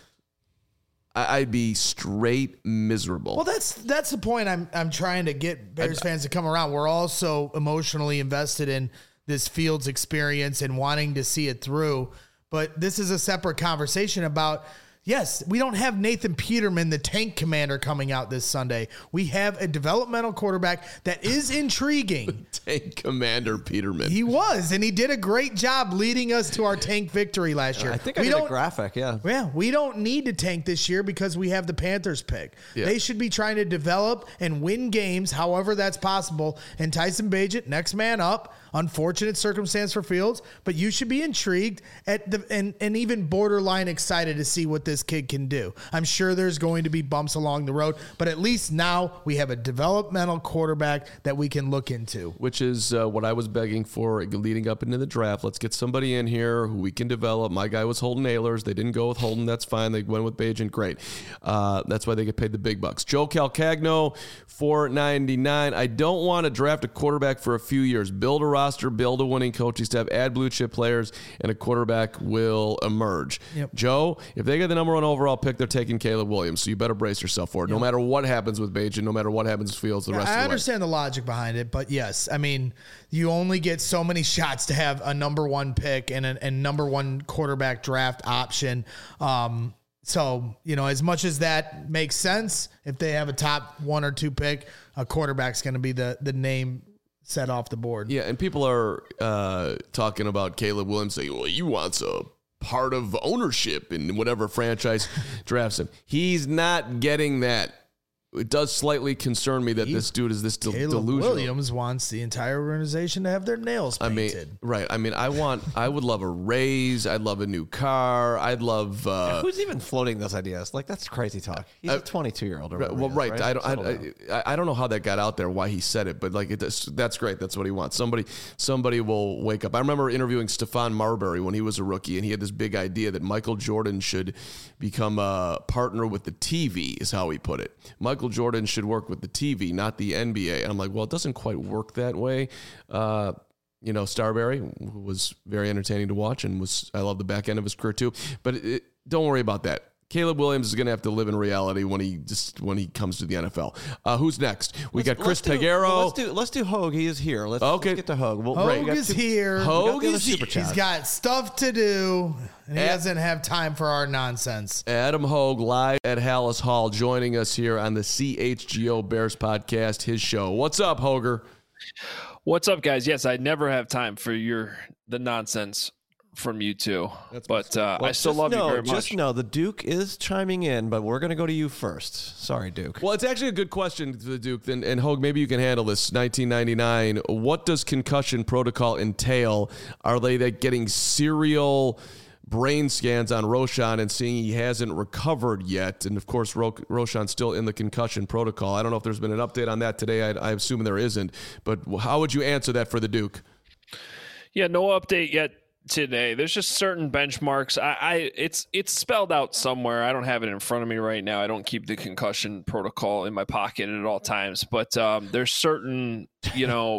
I'd be straight miserable. Well, that's that's the point I'm I'm trying to get Bears fans to come around. We're all so emotionally invested in this Fields experience and wanting to see it through. But this is a separate conversation about, yes, we don't have Nathan Peterman, the tank commander, coming out this Sunday. We have a developmental quarterback that is intriguing. Tank Commander Peterman. He was, and he did a great job leading us to our tank victory last year. I think I we did a don't, graphic, yeah. Yeah, we don't need to tank this year because we have the Panthers pick. Yeah. They should be trying to develop and win games, however that's possible. And Tyson Bagent, next man up. Unfortunate circumstance for Fields, but you should be intrigued at the and, and even borderline excited to see what this kid can do. I'm sure there's going to be bumps along the road, but at least now we have a developmental quarterback that we can look into. Which is uh, what I was begging for leading up into the draft. Let's get somebody in here who we can develop. My guy was Holden Ahlers. They didn't go with Holden. That's fine. They went with Bagent. Great. Uh, that's why they get paid the big bucks. Joe Calcagno, four ninety-nine. I don't want to draft a quarterback for a few years. Build a roster, build a winning coaching staff, add blue chip players, and a quarterback will emerge. Yep. Joe, if they get the number one overall pick, they're taking Caleb Williams. So you better brace yourself for it. Yep. No matter what happens with Bagent, no matter what happens with Fields, the Yeah, rest I of the understand way. the logic behind it, but yes, I mean, you only get so many shots to have a number one pick and a and number one quarterback draft option. Um, so, you know, as much as that makes sense, if they have a top one or two pick, a quarterback's going to be the the name set off the board. Yeah, and people are uh, talking about Caleb Williams saying, well, he wants a part of ownership in whatever franchise drafts him. He's not getting that. It does slightly concern me that He- this dude is this del- Caleb delusional. Williams wants the entire organization to have their nails I painted. mean, right. I mean, I want, I would love a raise. I'd love a new car. I'd love, uh, Who's even floating those ideas? Like, that's crazy talk. He's Uh, a twenty-two-year-old. Right, well, right. I don't. I, I, I don't know how that got out there. Why he said it, but like it, that's great. That's what he wants. Somebody, somebody will wake up. I remember interviewing Stephon Marbury when he was a rookie, and he had this big idea that Michael Jordan should become a partner with the T V. Is how he put it. Michael Jordan should work with the T V, not the N B A. And I'm like, well, it doesn't quite work that way. Uh, you know, Starberry was very entertaining to watch, and was I love the back end of his career too. But it, don't worry about that. Caleb Williams is going to have to live in reality when he just when he comes to the N F L. Uh, who's next? We Let's- got Chris let's do- Peguero. well, Let's do let's do Hogue. He is here. Let's, Okay. let's get to Hogue. Well, Hogue right, we got is two- here. we got Hogue the other is super here. He's chat. got stuff to do, and he Eh. doesn't have time for our nonsense. Adam Hogue live at Hallis Hall, joining us here on the C H G O Bears podcast, his show. What's up, Hoger? What's up, guys? Yes, I never have time for your the nonsense from you two, That's but uh, Well, I still just love know, you very Just much. know the Duke is chiming in, but we're going to go to you first. Sorry, Duke. Well, it's actually a good question to the Duke. And, and Hogue, maybe you can handle this. nineteen ninety-nine, what does concussion protocol entail? Are they that getting serial brain scans on Roshan and seeing he hasn't recovered yet? And, of course, Ro- Roshan's still in the concussion protocol. I don't know if there's been an update on that today. I, I assume there isn't. But how would you answer that for the Duke? Yeah, no update yet today. There's just certain benchmarks. I, I it's it's spelled out somewhere. I don't have it in front of me right now. I don't keep the concussion protocol in my pocket at all times. But um, there's certain, you know,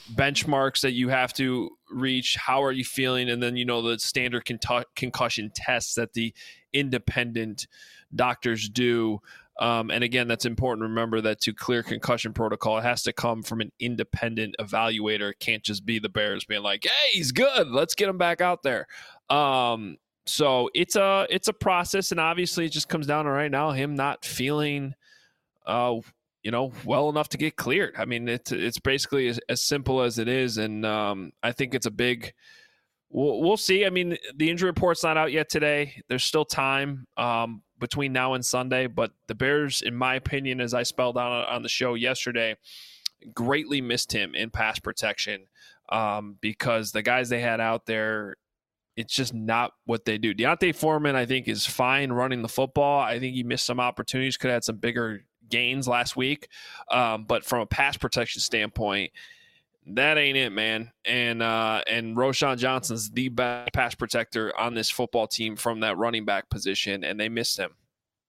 benchmarks that you have to reach. How are you feeling? And then, you know, the standard con- concussion tests that the independent doctors do. Um, and again, that's important to remember that to clear concussion protocol, it has to come from an independent evaluator. It can't just be the Bears being like, hey, he's good, let's get him back out there. Um, so it's a, it's a process. And obviously it just comes down to right now, him not feeling, uh, you know, well enough to get cleared. I mean, it's, it's basically as, as simple as it is. And um, I think it's a big, we'll, we'll see. I mean, the injury report's not out yet today. There's still time. Um, between now and Sunday, but the Bears, in my opinion, as I spelled out on the show yesterday, greatly missed him in pass protection um, because the guys they had out there, it's just not what they do. Deontay Foreman, I think, is fine running the football. I think he missed some opportunities, could have had some bigger gains last week. Um, but from a pass protection standpoint, that ain't it, man. And uh, and Roschon Johnson's the best pass protector on this football team from that running back position, and they missed him.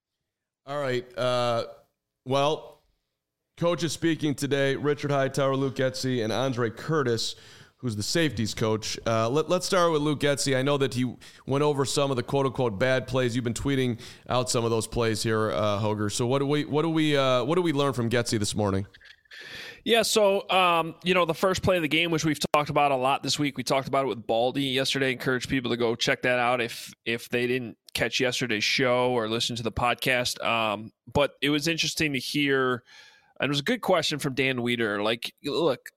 All right. Uh, well, coach is speaking today. Richard Hightower, Luke Getsy, and Andre Curtis, who's the safeties coach. Uh, let, let's start with Luke Getsy. I know that he went over some of the quote-unquote bad plays. You've been tweeting out some of those plays here, uh, Hoger. So what do we what do we uh, what do we learn from Getsy this morning? Yeah, so, um, you know, the first play of the game, which we've talked about a lot this week, we talked about it with Baldy yesterday. Encourage people to go check that out if if they didn't catch yesterday's show or listen to the podcast. Um, but it was interesting to hear, and it was a good question from Dan Weeder. Like, look,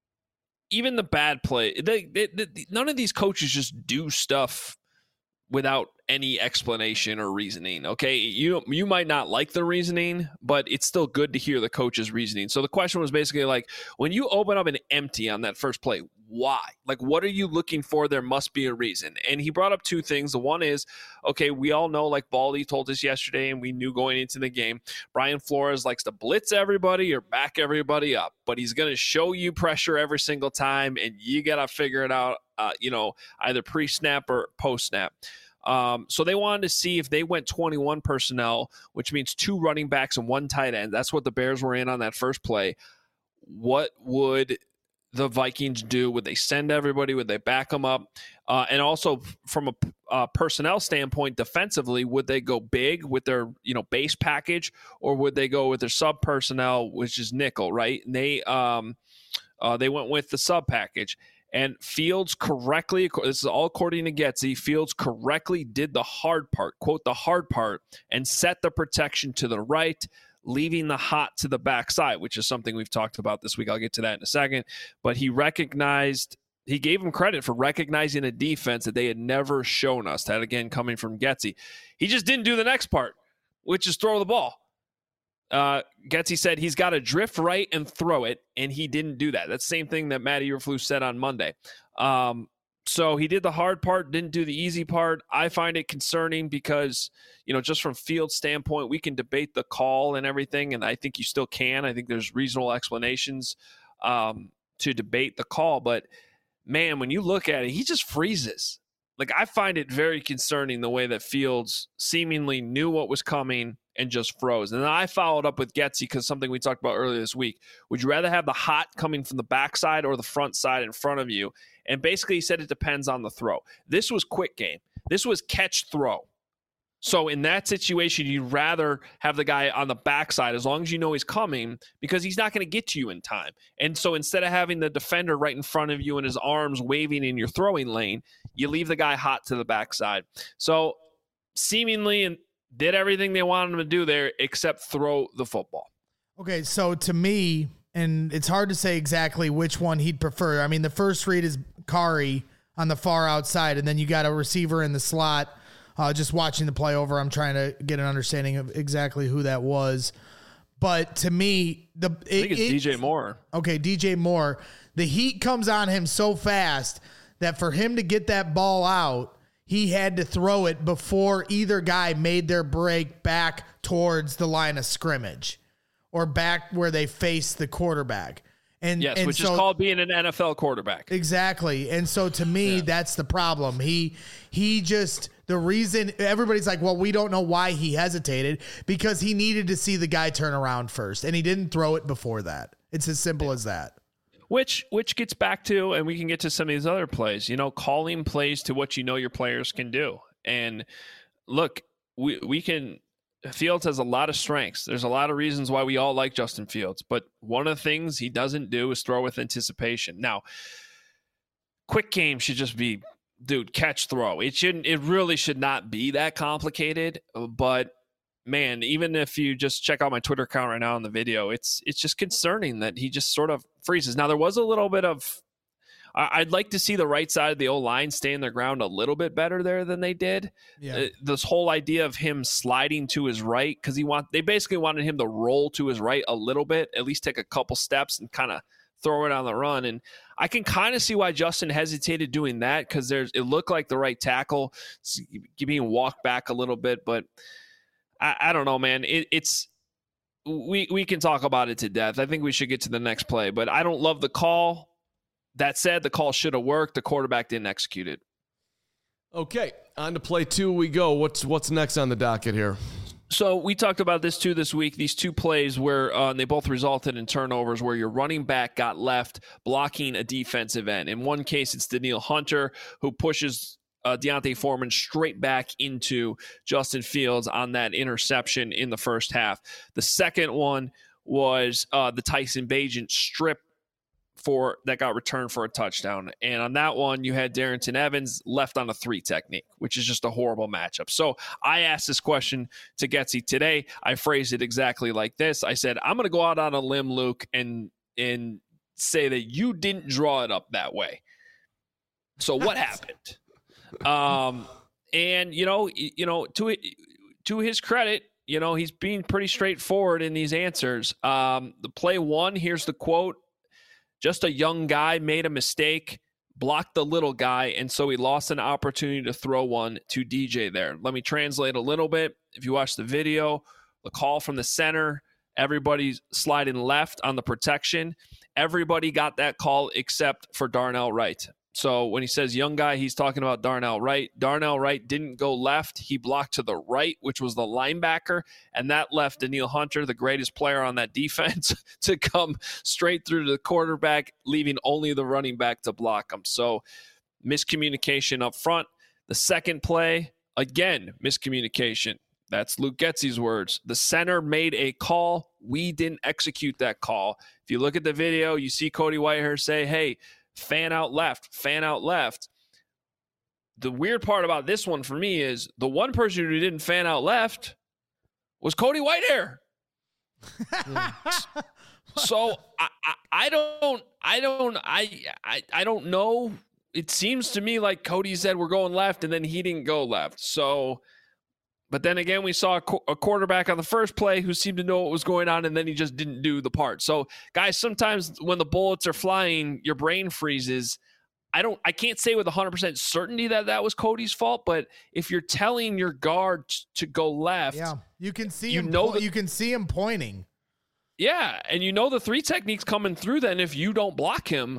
even the bad play, they, they, they, none of these coaches just do stuff without any explanation or reasoning. Okay, you you might not like the reasoning, but it's still good to hear the coach's reasoning. So the question was basically like, when you open up an empty on that first play, why? Like, what are you looking for? There must be a reason. And he brought up two things. The one is, okay, we all know, like Baldy told us yesterday, and we knew going into the game, Brian Flores likes to blitz everybody or back everybody up, but he's going to show you pressure every single time, and you got to figure it out, uh, you know, either pre-snap or post-snap. Um, so they wanted to see if they went twenty-one personnel, which means two running backs and one tight end. That's what the Bears were in on that first play. What would the Vikings do? Would they send everybody? Would they back them up? Uh, and also from a uh, personnel standpoint, defensively, would they go big with their, you know, base package, or would they go with their sub personnel, which is nickel, right? And they, um, uh, they went with the sub package. And Fields correctly, this is all according to Getsy, Fields correctly did the hard part, quote, the hard part, and set the protection to the right, leaving the hot to the backside, which is something we've talked about this week. I'll get to that in a second. But he recognized, he gave him credit for recognizing a defense that they had never shown us. That, again, coming from Getsy. He just didn't do the next part, which is throw the ball. Uh, Getsy said he's got to drift right and throw it, and he didn't do that. That's the same thing that Matt Eberflus said on Monday. Um, so he did the hard part, didn't do the easy part. I find it concerning because, you know, just from Fields' standpoint, we can debate the call and everything, and I think you still can. I think there's reasonable explanations um, to debate the call. But, man, when you look at it, he just freezes. Like, I find it very concerning the way that Fields seemingly knew what was coming and just froze. And then I followed up with Getsy because something we talked about earlier this week. Would you rather have the hot coming from the backside or the front side in front of you? And basically he said it depends on the throw. This was quick game. This was catch throw. So in that situation, you'd rather have the guy on the backside as long as you know he's coming, because he's not going to get to you in time. And so instead of having the defender right in front of you and his arms waving in your throwing lane, you leave the guy hot to the backside. So seemingly and did everything they wanted him to do there except throw the football. Okay, so to me, and it's hard to say exactly which one he'd prefer. I mean, the first read is Kari on the far outside, and then you got a receiver in the slot. Uh, just watching the play over, I'm trying to get an understanding of exactly who that was. But to me, the it, I think it's it, D J Moore. Okay, D J Moore. The heat comes on him so fast that for him to get that ball out, he had to throw it before either guy made their break back towards the line of scrimmage or back where they face the quarterback. And yes, and which so, is called being an N F L quarterback. Exactly. And so to me, yeah. that's the problem. He he just the reason everybody's like, well, we don't know why he hesitated, because he needed to see the guy turn around first, and he didn't throw it before that. It's as simple as that. Which which gets back to, and we can get to some of these other plays, you know, calling plays to what you know your players can do. And look, we we can Fields has a lot of strengths. There's a lot of reasons why we all like Justin Fields, but one of the things he doesn't do is throw with anticipation. Now, quick game should just be, dude, catch, throw. It shouldn't. It really should not be that complicated. But man, even if you just check out my Twitter account right now on the video, it's it's just concerning that he just sort of freezes. Now, there was a little bit of. I'd like to see the right side of the O-line stay in their ground a little bit better there than they did. Yeah. Uh, this whole idea of him sliding to his right, because he want they basically wanted him to roll to his right a little bit, at least take a couple steps and kind of throw it on the run. And I can kind of see why Justin hesitated doing that, because there's it looked like the right tackle being walked back a little bit. But I, I don't know, man. It, it's we we can talk about it to death. I think we should get to the next play, but I don't love the call. That said, the call should have worked. The quarterback didn't execute it. Okay, on to play two we go. What's what's next on the docket here? So we talked about this too this week. These two plays where uh, they both resulted in turnovers, where your running back got left blocking a defensive end. In one case, it's Danielle Hunter who pushes uh, D'Onta Foreman straight back into Justin Fields on that interception in the first half. The second one was uh, the Tyson Bagent strip for that got returned for a touchdown. And on that one, you had Darrington Evans left on a three technique, which is just a horrible matchup. So I asked this question to Getsy today. I phrased it exactly like this. I said, I'm going to go out on a limb, Luke, and and say that you didn't draw it up that way. So what happened? Um, and, you know, you know, to to his credit, you know, he's being pretty straightforward in these answers. Um, the play one, here's the quote. Just a young guy made a mistake, blocked the little guy, and so he lost an opportunity to throw one to D J there. Let me translate a little bit. If you watch the video, the call from the center, everybody's sliding left on the protection. Everybody got that call except for Darnell Wright. So when he says young guy, he's talking about Darnell Wright. Darnell Wright didn't go left. He blocked to the right, which was the linebacker, and that left Danielle Hunter, the greatest player on that defense, to come straight through to the quarterback, leaving only the running back to block him. So miscommunication up front. The second play, again, miscommunication. That's Luke Getsy's words. The center made a call. We didn't execute that call. If you look at the video, you see Cody Whitehair say, hey, fan out left, fan out left. The weird part about this one for me is the one person who didn't fan out left was Cody Whitehair. So I, I, I don't, I don't, I, I, I don't know. It seems to me like Cody said we're going left, and then he didn't go left. So, but then again, we saw a, qu- a quarterback on the first play who seemed to know what was going on, and then he just didn't do the part. So, guys, sometimes when the bullets are flying, your brain freezes. I don't, I can't say with one hundred percent certainty that that was Cody's fault, but if you're telling your guard t- to go left, yeah, you can see you him. know Po- that, you can see him pointing. Yeah, and you know the three technique's coming through. Then if you don't block him,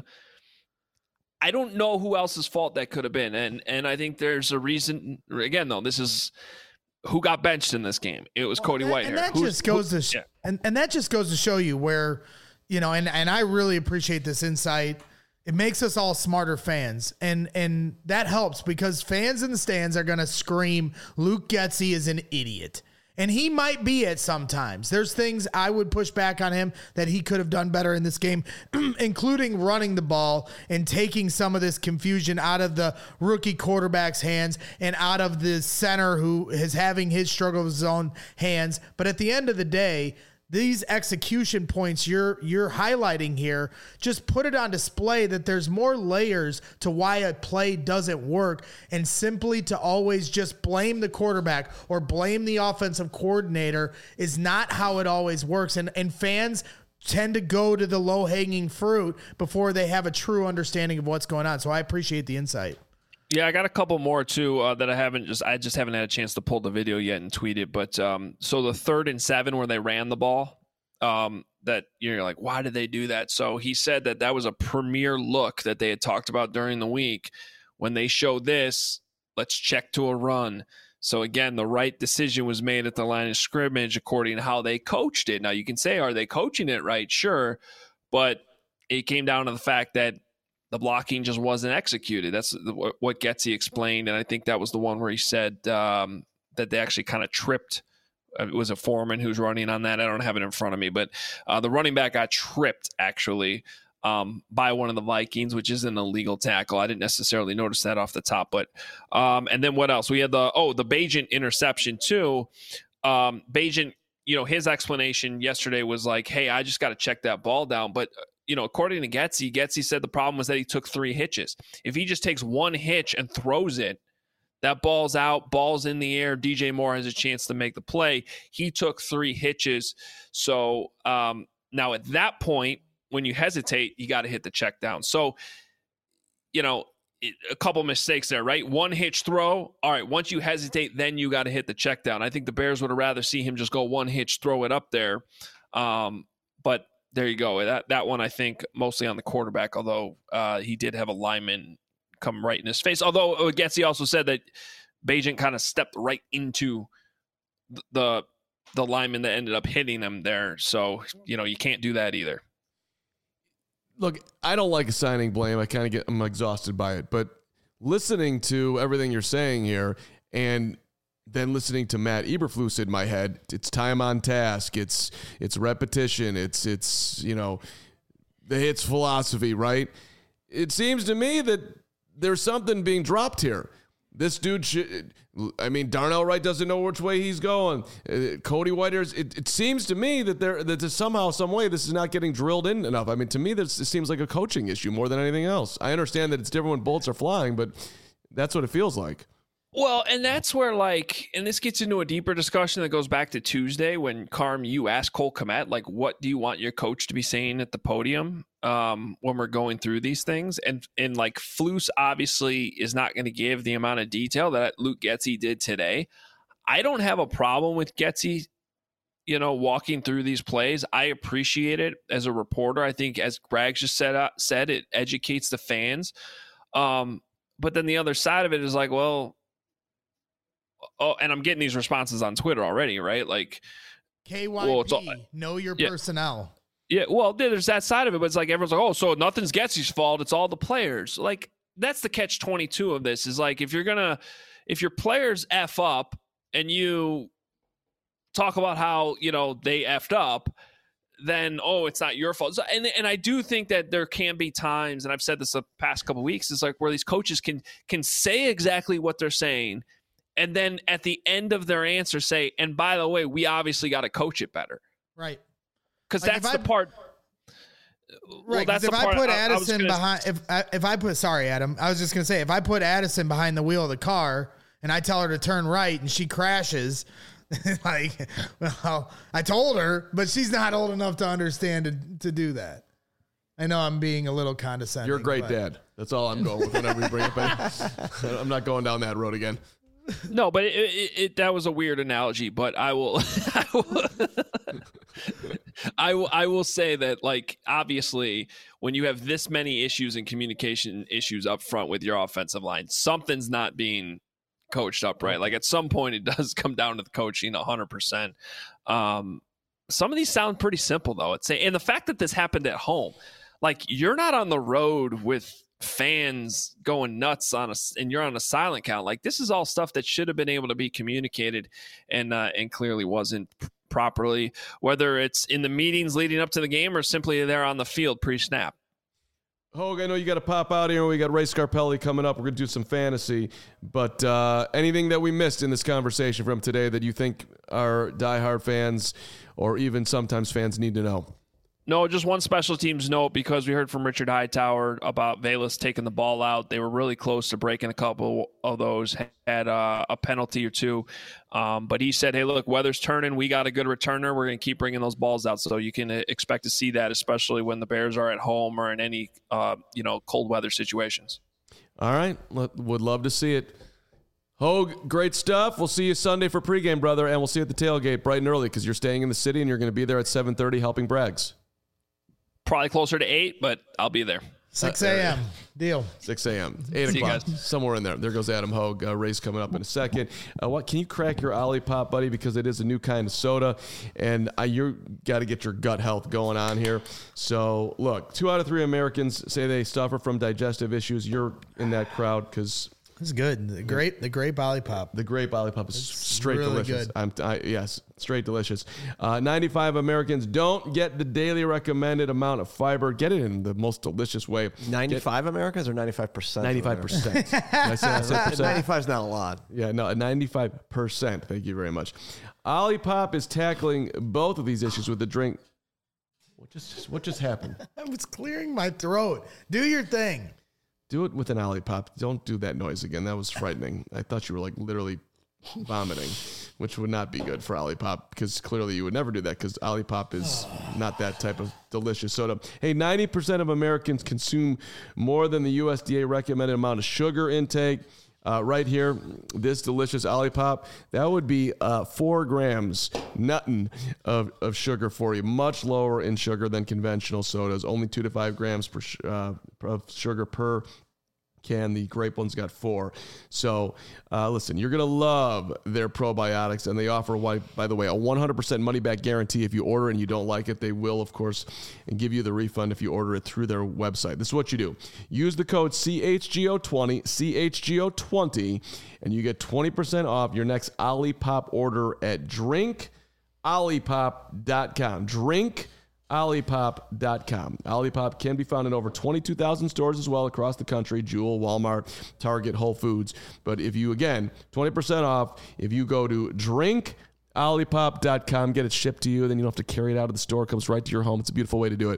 I don't know who else's fault that could have been, and and I think there's a reason. Again, though, this is. Who got benched in this game? It was well, Cody Whitehair. And that Who's, just goes who, to sh- yeah. and, and that just goes to show you where, you know, and, and I really appreciate this insight. It makes us all smarter fans. And and that helps because fans in the stands are going to scream, Luke Getsy is an idiot. And he might be at sometimes. There's things I would push back on him that he could have done better in this game, including running the ball and taking some of this confusion out of the rookie quarterback's hands and out of the center who is having his struggle with his own hands. But at the end of the day, these execution points you're you're highlighting here, just put it on display that there's more layers to why a play doesn't work, and simply to always just blame the quarterback or blame the offensive coordinator is not how it always works. And and fans tend to go to the low-hanging fruit before they have a true understanding of what's going on. So I appreciate the insight. Yeah, I got a couple more too uh, that I haven't just I just haven't had a chance to pull the video yet and tweet it. But um, so the third and seven where they ran the ball, um, that you're like, why did they do that? So he said that that was a premier look that they had talked about during the week. When they showed this, let's check to a run. So again, the right decision was made at the line of scrimmage according to how they coached it. Now you can say, are they coaching it right? Sure, but it came down to the fact that the blocking just wasn't executed. That's the, what Getsy explained, and I think that was the one where he said um, that they actually kind of tripped. It was a Foreman who's running on that. I don't have it in front of me, but uh, the running back got tripped actually um, by one of the Vikings, which isn't a legal tackle. I didn't necessarily notice that off the top, but um, and then what else? We had the oh the Bagent interception too. Um, Bagent, you know, his explanation yesterday was like, "Hey, I just got to check that ball down," but you know, according to Getsy, Getsy said the problem was that he took three hitches. If he just takes one hitch and throws it, that ball's out, ball's in the air. D J Moore has a chance to make the play. He took three hitches. So um, now at that point, when you hesitate, you got to hit the check down. So, you know, it, a couple mistakes there, right? One hitch throw. All right, once you hesitate, then you got to hit the check down. I think the Bears would have rather see him just go one hitch, throw it up there. Um, but there you go. That that one, I think, mostly on the quarterback, although uh, he did have a lineman come right in his face. Although Getsy also said that Bagent kind of stepped right into the the lineman that ended up hitting him there. So, you know, you can't do that either. Look, I don't like assigning blame. I kind of get, I'm exhausted by it. But listening to everything you're saying here and then listening to Matt Eberflus in my head, it's time on task. It's it's repetition. It's, it's you know, the hits philosophy, right? It seems to me that there's something being dropped here. This dude should, I mean, Darnell Wright doesn't know which way he's going. Uh, Cody Whitehair's, it, it seems to me that there that somehow, some way, this is not getting drilled in enough. I mean, to me, this, this seems like a coaching issue more than anything else. I understand that it's different when bullets are flying, but that's what it feels like. Well, and that's where, like, and this gets into a deeper discussion that goes back to Tuesday when, Carm, you asked Cole Kmet, like, what do you want your coach to be saying at the podium um, when we're going through these things? And, and like, Flus obviously is not going to give the amount of detail that Luke Getsy did today. I don't have a problem with Getsy, you know, walking through these plays. I appreciate it as a reporter. I think, as Greg just said, uh, said it educates the fans. Um, but then the other side of it is like, well, oh, and I'm getting these responses on Twitter already, right? Like K Y P, well, all, know your yeah. personnel. Yeah, well, there's that side of it, but it's like everyone's like, oh, so nothing's Getsy's fault. It's all the players. Like, that's the catch twenty-two of this is like, if you're going to, if your players F up and you talk about how, you know, they F'd up, then, oh, it's not your fault. So, and and I do think that there can be times, and I've said this the past couple of weeks, is like where these coaches can can say exactly what they're saying, and then at the end of their answer say, and by the way, we obviously got to coach it better. Right. Because like that's the I, part. Right. Well, that's if the I part put I, Addison I gonna, behind, if I, if I put, sorry, Adam, I was just going to say, if I put Addison behind the wheel of the car and I tell her to turn right and she crashes, like, well, I told her, but she's not old enough to understand to, to do that. I know I'm being a little condescending. You're a great but. dad. That's all I'm going with whenever you bring it back. I'm not going down that road again. No, but it, it, it, that was a weird analogy. But I will, I will, I will, I will say that, like, obviously, when you have this many issues and communication issues up front with your offensive line, something's not being coached up right. Like, at some point, it does come down to the coaching, one hundred percent. Um, some of these sound pretty simple, though. It's and the fact that this happened at home, like, you're not on the road with fans going nuts on a, and you're on a silent count. Like, this is all stuff that should have been able to be communicated and uh, and clearly wasn't p- properly, whether it's in the meetings leading up to the game or simply there on the field pre-snap. Hogue, I know you got to pop out here. We got Ray Scarpelli coming up. We're going to do some fantasy. But uh, anything that we missed in this conversation from today that you think our diehard fans or even sometimes fans need to know? No, just one special teams note, because we heard from Richard Hightower about Velus taking the ball out. They were really close to breaking a couple of those, had uh, a penalty or two. Um, but he said, hey, look, weather's turning. We got a good returner. We're going to keep bringing those balls out. So you can expect to see that, especially when the Bears are at home or in any, uh, you know, cold weather situations. All right. Would love to see it. Hogue, great stuff. We'll see you Sunday for pregame, brother, and we'll see you at the tailgate bright and early because you're staying in the city and you're going to be there at seven thirty helping Braggs. Probably closer to eight, but I'll be there. six a.m. Deal. six a.m. eight See you o'clock. guys. Somewhere in there. There goes Adam Hogue. Uh, race coming up in a second. Uh, what can you crack your Olipop, buddy? Because it is a new kind of soda, and uh, you got to get your gut health going on here. So, look, two out of three Americans say they suffer from digestive issues. You're in that crowd because It's good. The grape, the grape Olipop. the grape Olipop is straight really delicious. good. I'm, I, yes, straight delicious. Uh, ninety-five Americans don't get the daily recommended amount of fiber. Get it in the most delicious way. ninety-five Americans or ninety-five percent? ninety-five percent. Did I say, I said percent? ninety-five is not a lot. Yeah, no, ninety-five percent. Thank you very much. Olipop is tackling both of these issues with the drink. What just what just happened? I was clearing my throat. Do your thing. Do it with an Olipop. Don't do that noise again. That was frightening. I thought you were like literally vomiting, which would not be good for Olipop because clearly you would never do that because Olipop is not that type of delicious soda. Hey, ninety percent of Americans consume more than the U S D A recommended amount of sugar intake. Uh, right here, this delicious Olipop, that would be uh, four grams, nothing of, of sugar for you. Much lower in sugar than conventional sodas. Only two to five grams per sh- uh, of sugar per can. The grape one's got four. So, uh, listen, you're going to love their probiotics, and they offer, by the way, a one hundred percent money-back guarantee. If you order and you don't like it, they will, of course, and give you the refund if you order it through their website. This is what you do. Use the code C H G O twenty, C H G O twenty, and you get twenty percent off your next Olipop order at drink olipop dot com. drink olipop dot com. Olipop can be found in over twenty-two thousand stores as well across the country, Jewel, Walmart, Target, Whole Foods. But if you, again, twenty percent off, if you go to drink olipop dot com, get it shipped to you, then you don't have to carry it out of the store. It comes right to your home. It's a beautiful way to do it.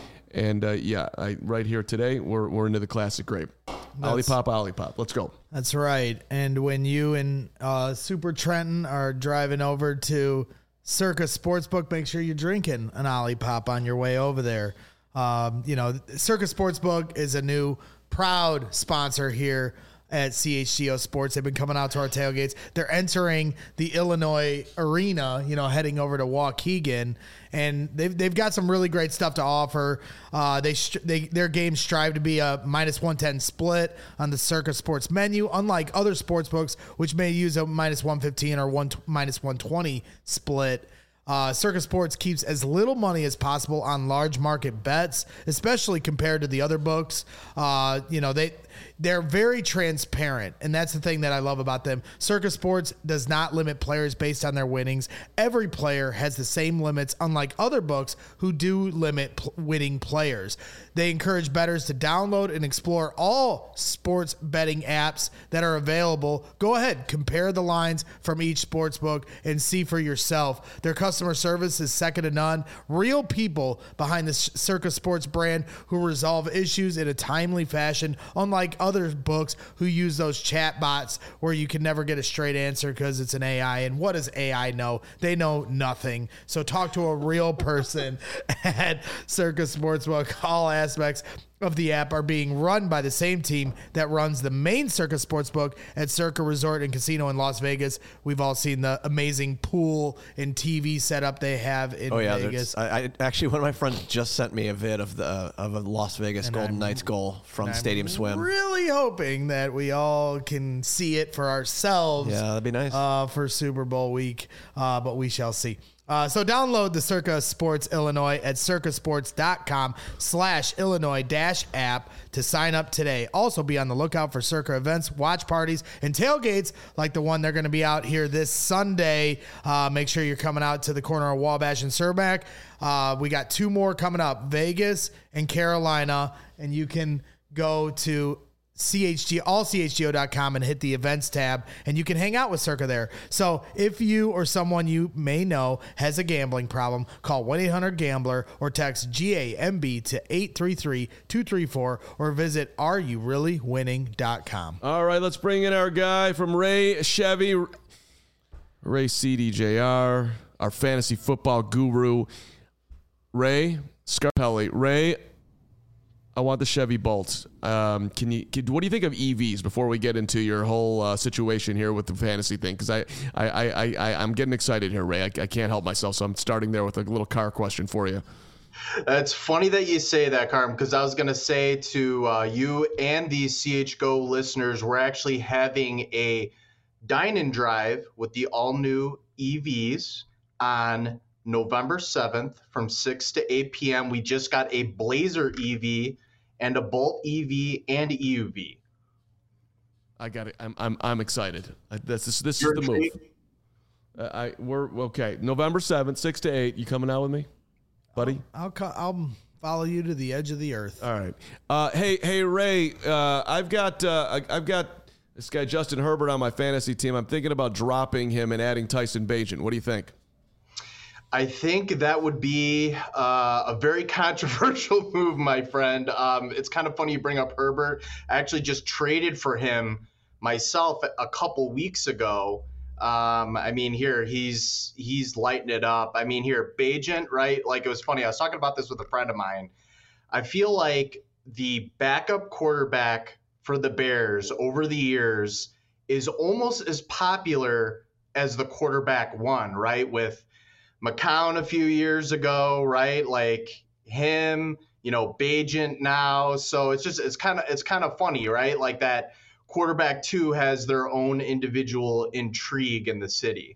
And uh, yeah, I, right here today, we're, we're into the classic grape. Olipop, Olipop. Let's go. That's right. And when you and uh, Super Trenton are driving over to Circa Sportsbook, make sure you're drinking an Olipop on your way over there. Um, you know, Circa Sportsbook is a new proud sponsor here at C H G O Sports. They've been coming out to our tailgates. They're entering the Illinois arena, you know, heading over to Waukegan, and they've they've got some really great stuff to offer. Uh, they they their games strive to be a minus one ten split on the Circa Sports menu, unlike other sports books which may use a minus one fifteen or one minus one twenty split. Uh, Circa Sports keeps as little money as possible on large market bets, especially compared to the other books. Uh, you know, they, they're very transparent, and that's the thing that I love about them. Circa Sports does not limit players based on their winnings. Every player has the same limits, unlike other books who do limit pl- winning players. They encourage bettors to download and explore all sports betting apps that are available. Go ahead, compare the lines from each sports book and see for yourself. Their customer service is second to none. Real people behind the Circa Sports brand who resolve issues in a timely fashion, unlike other books who use those chat bots where you can never get a straight answer because it's an A I. And what does A I know? They know nothing. So talk to a real person at Circa Sportsbook. All aspects of the app are being run by the same team that runs the main Circa Sportsbook at Circa Resort and Casino in Las Vegas. We've all seen the amazing pool and T V setup they have in Oh yeah, Vegas. I, I actually one of my friends just sent me a vid of the uh, of a Las Vegas And Golden I'm- Knights goal from I'm Stadium Swim. Really hoping that we all can see it for ourselves. Yeah, that'd be nice. Uh, for Super Bowl week, uh, but we shall see. Uh, so download the Circa Sports Illinois at circasports.com slash Illinois dash app to sign up today. Also be on the lookout for Circa events, watch parties, and tailgates like the one they're going to be out here this Sunday. Uh, make sure you're coming out to the corner of Wabash and Cermak. Uh, we got two more coming up, Vegas and Carolina, and you can go to C H G, all C H G O dot com and hit the events tab, and you can hang out with Circa there. So if you or someone you may know has a gambling problem, call one eight hundred gambler or text G A M B to eight three three, two three four or visit are you really winning dot com. All right, let's bring in our guy from Ray Chevy, Ray C D J R, our fantasy football guru, Ray Scarpelli. Ray, I want the Chevy Bolt. Um, can you? Can, what do you think of E Vs before we get into your whole uh, situation here with the fantasy thing? Because I, I, I, I, I'm getting excited here, Ray. I, I can't help myself, so I'm starting there with a little car question for you. It's funny that you say that, Carm, because I was going to say to uh, you and the C H G O listeners, we're actually having a dine-in drive with the all-new E Vs on November seventh from six to eight p.m. We just got a Blazer E V and a Bolt E V and E U V. I got it. I'm I'm I'm excited. I, this this, this is You're the move. Uh, I we're okay. November seventh, six to eight. You coming out with me, buddy? I'll co- I'll follow you to the edge of the earth. All right. Uh, hey hey Ray. Uh, I've got uh, I, I've got this guy Justin Herbert on my fantasy team. I'm thinking about dropping him and adding Tyson Bagent. What do you think? I think that would be uh, a very controversial move, my friend. Um, it's kind of funny you bring up Herbert. I actually just traded for him myself a couple weeks ago. Um, I mean, here he's he's lighting it up. I mean, here Bagent, right? Like, it was funny. I was talking about this with a friend of mine. I feel like the backup quarterback for the Bears over the years is almost as popular as the quarterback one, right? With McCown a few years ago, right? Like him, you know, Bagent now. So it's just it's kind of it's kind of funny, right? Like that quarterback two has their own individual intrigue in the city.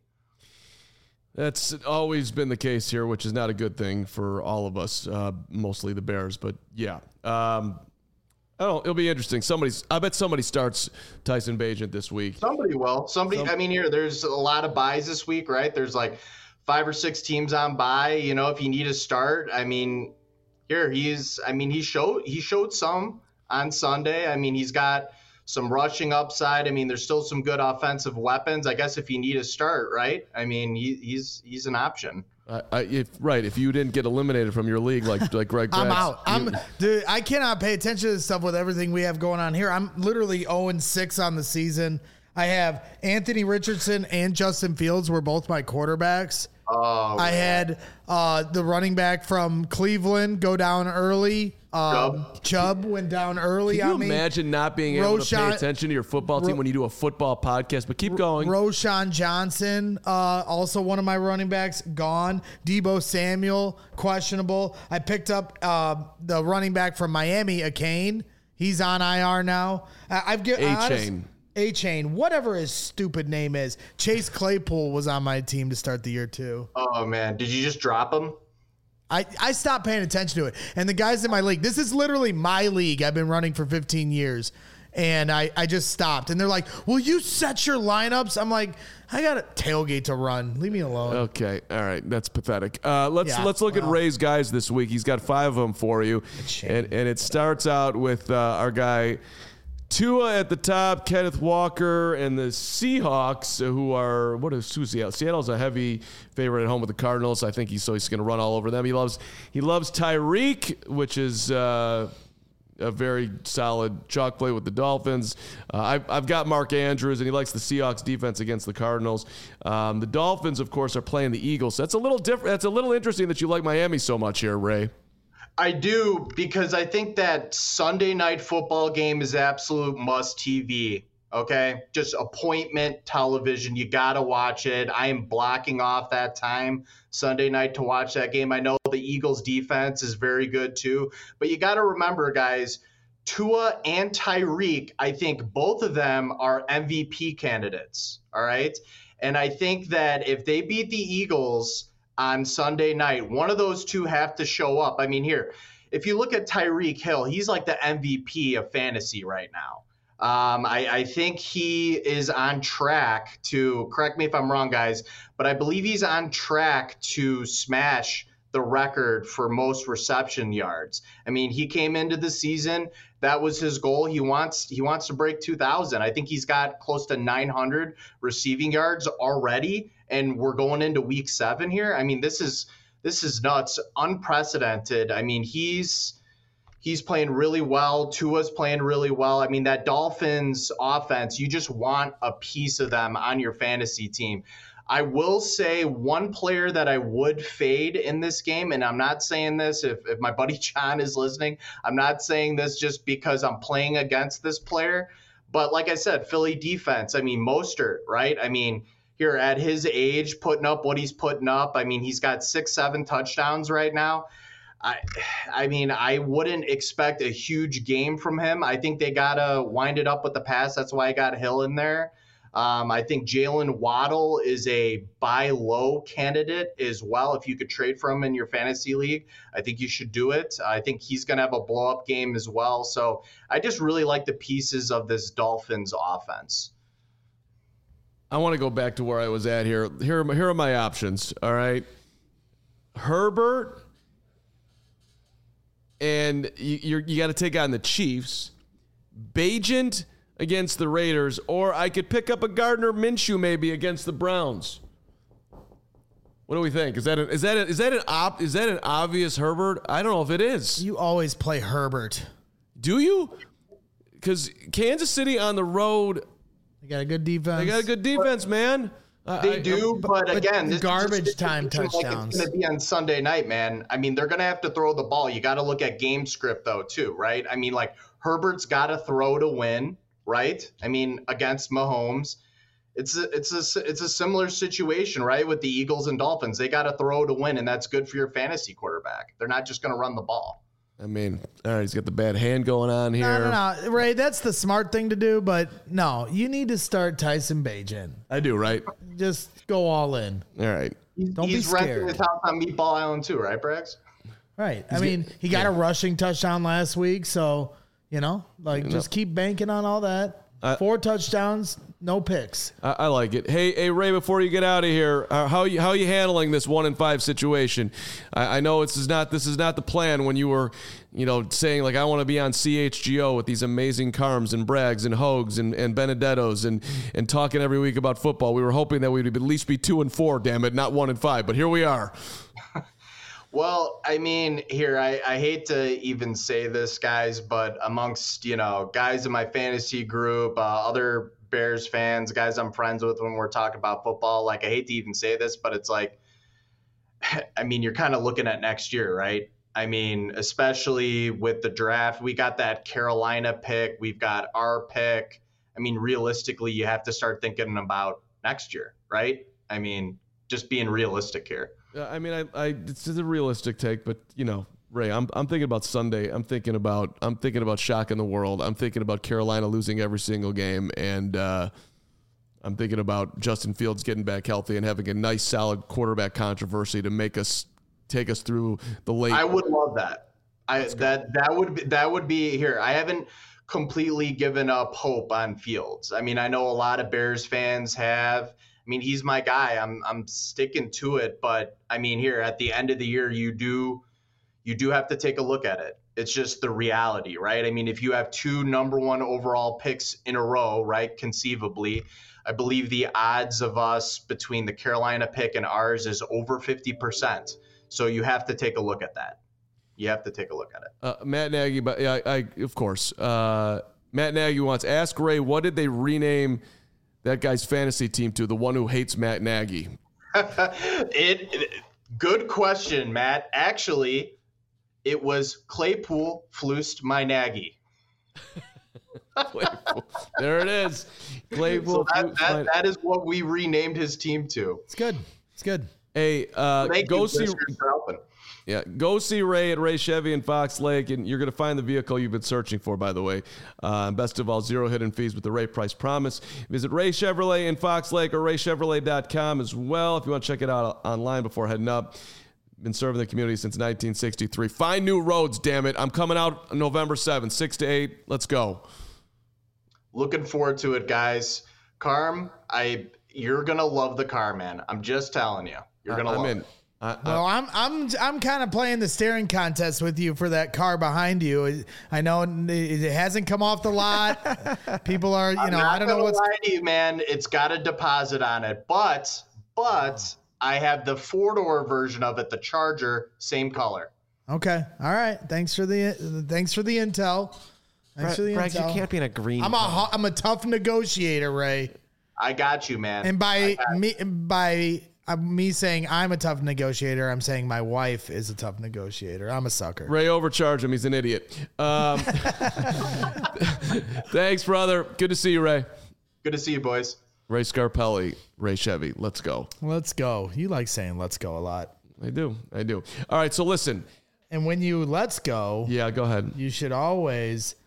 That's always been the case here, which is not a good thing for all of us, uh, mostly the Bears. But yeah, um, I don't know. It'll be interesting. Somebody's. I bet somebody starts Tyson Bagent this week. Somebody will. Somebody. Some, I mean, here there's a lot of buys this week, right? There's like five or six teams on bye. You know, if you need a start, I mean, here he's. I mean, he showed he showed some on Sunday. I mean, he's got some rushing upside. I mean, there's still some good offensive weapons. I guess if you need a start, right? I mean, he, he's he's an option. I, I, if right, if you didn't get eliminated from your league like like Greg, I'm Gratz, out. you, I'm dude. I cannot pay attention to this stuff with everything we have going on here. I'm literally oh and six on the season. I have Anthony Richardson and Justin Fields were both my quarterbacks. Oh, I man. had uh, the running back from Cleveland go down early. Um, Chubb. Chubb went down early Can you on me. imagine not being able to Roshan- pay attention to your football team Ro- when you do a football podcast? But keep going. Roshan Johnson, uh, also one of my running backs, gone. Debo Samuel, questionable. I picked up uh, the running back from Miami, Akane. He's on I R now. I- I've get A-Chain. A-Chain, whatever his stupid name is. Chase Claypool was on my team to start the year too. Oh man, did you just drop him? I, I stopped paying attention to it. And the guys in my league, this is literally my league I've been running for fifteen years. And I, I just stopped. And they're like, will you set your lineups? I'm like, I got a tailgate to run. Leave me alone. Okay, all right, that's pathetic. Uh, let's Yeah, let's look well. at Ray's guys this week. He's got five of them for you, and and it starts out with uh, our guy Tua at the top, Kenneth Walker, and the Seahawks, who are what is who's Seattle? Seattle's a heavy favorite at home with the Cardinals. I think he's so he's going to run all over them. He loves he loves Tyreek, which is. Uh, A very solid chalk play with the Dolphins. Uh, I've, I've got Mark Andrews, and he likes the Seahawks defense against the Cardinals. Um, the Dolphins, of course, are playing the Eagles. So that's a little different. That's a little interesting that you like Miami so much here, Ray. I do, because I think that Sunday night football game is absolute must T V. Okay, just appointment television. You got to watch it. I am blocking off that time Sunday night to watch that game. I know the Eagles defense is very good too, but you got to remember, guys, Tua and Tyreek, I think both of them are M V P candidates. All right. And I think that if they beat the Eagles on Sunday night, one of those two have to show up. I mean, here, if you look at Tyreek Hill, he's like the M V P of fantasy right now. Um, I, I think he is on track to, correct me if I'm wrong, guys, but I believe he's on track to smash the record for most reception yards. I mean, he came into the season, that was his goal. He wants he wants to break two thousand. I think he's got close to nine hundred receiving yards already, and we're going into week seven here. I mean, this is this is nuts, unprecedented. I mean, he's He's playing really well. Tua's playing really well. I mean, that Dolphins offense, you just want a piece of them on your fantasy team. I will say one player that I would fade in this game, and I'm not saying this if, if my buddy John is listening, I'm not saying this just because I'm playing against this player. But like I said, Philly defense, I mean, Mostert, right? I mean, here at his age, putting up what he's putting up. I mean, he's got six, seven touchdowns right now. I, I mean, I wouldn't expect a huge game from him. I think they got to wind it up with the pass. That's why I got Hill in there. Um, I think Jalen Waddle is a buy low candidate as well. If you could trade for him in your fantasy league, I think you should do it. I think he's going to have a blow up game as well. So I just really like the pieces of this Dolphins offense. I want to go back to where I was at here. Here are my, here are my options. All right. Herbert, and you you're, you got to take on the Chiefs. Bagent against the Raiders, or I could pick up a Gardner Minshew maybe against the Browns. What do we think? Is that a, is that a, is that an op, is that an obvious Herbert? I don't know if it is. You always play Herbert. Do you? Because Kansas City on the road, They got a good defense. they got a good defense, man. They I, do, but, but again, this garbage is time touchdowns. Like it's going to be on Sunday night, man. I mean, they're going to have to throw the ball. You got to look at game script though, too, right? I mean, like Herbert's got to throw to win. Right? I mean, against Mahomes, it's a, it's a, it's a similar situation, right? With the Eagles and Dolphins, they got to throw to win, and that's good for your fantasy quarterback. They're not just going to run the ball. I mean, all right, he's got the bad hand going on here. No, no, no, Ray, that's the smart thing to do, but no, you need to start Tyson Bagent. I do, right? Just go all in. All right. Don't he's be scared. renting his house on Meatball Island too, right, Braggs? Right. I mean, he got a rushing touchdown last week, so, you know, like, just keep banking on all that. Uh, Four touchdowns, no picks. I, I like it. Hey, hey, Ray, before you get out of here, uh, how you how you handling this one in five situation? I, I know this is not this is not the plan when you were, you know, saying like I want to be on C H G O with these amazing Carms and Braggs and Hogues and, and Benedettos and and talking every week about football. We were hoping that we'd at least be two and four, damn it, not one and five. But here we are. Well, I mean, here, I, I hate to even say this, guys, but amongst, you know, guys in my fantasy group, uh, other Bears fans, guys I'm friends with when we're talking about football, like, I hate to even say this, but it's like, I mean, you're kind of looking at next year, right? I mean, especially with the draft, we got that Carolina pick, we've got our pick. I mean, realistically, you have to start thinking about next year, right? I mean, just being realistic here. Uh, I mean, I, I it's a realistic take, but you know, Ray, I'm I'm thinking about Sunday. I'm thinking about I'm thinking about shocking the world. I'm thinking about Carolina losing every single game, and uh, I'm thinking about Justin Fields getting back healthy and having a nice, solid quarterback controversy to make us take us through the late. I would love that. I that that would be, that would be here. I haven't completely given up hope on Fields. I mean, I know a lot of Bears fans have. I mean, he's my guy. I'm I'm sticking to it, but I mean, here at the end of the year, you do you do have to take a look at it. It's just the reality, right? I mean, if you have two number one overall picks in a row, right, conceivably, I believe the odds of us between the Carolina pick and ours is over fifty percent. So you have to take a look at that. You have to take a look at it. Uh, Matt Nagy, but yeah, I, I of course. Uh, Matt Nagy wants ask Ray, what did they rename that guy's fantasy team to? The one who hates Matt Nagy. it, it good question, Matt. Actually, it was Claypool Flust my Nagy. Claypool. There it is. Claypool. So that, that, that is what we renamed his team to. It's good. It's good. Hey, uh, Thank go you, see. for Yeah, go see Ray at Ray Chevy in Fox Lake, and you're going to find the vehicle you've been searching for, by the way. Uh, best of all, zero hidden fees with the Ray Price Promise. Visit Ray Chevrolet in Fox Lake or ray chevrolet dot com as well if you want to check it out online before heading up. Been serving the community since nineteen sixty-three. Find new roads, damn it. I'm coming out November seventh, six to eight. Let's go. Looking forward to it, guys. Carm, I you're going to love the car, man. I'm just telling you. You're going to I'm love in. it. I, I, Well, I'm I'm I'm kind of playing the staring contest with you for that car behind you. I know it it hasn't come off the lot. People are, you I'm know, not I don't know gonna what's. lie to you, man. It's got a deposit on it, but but I have the four door version of it, the Charger, same color. Okay, all right. Thanks for the thanks for the intel. Thanks for the Bragg, intel. you can't be in a green. I'm a car. ho- I'm a tough negotiator, Ray. I got you, man. And by I got me by uh, me saying I'm a tough negotiator, I'm saying my wife is a tough negotiator. I'm a sucker. Ray overcharged him. He's an idiot. Um, thanks, brother. Good to see you, Ray. Good to see you, boys. Ray Scarpelli, Ray Chevy. Let's go. Let's go. You like saying "let's go" a lot. I do. I do. All right. So listen. And when you let's go, Yeah, go ahead. you should always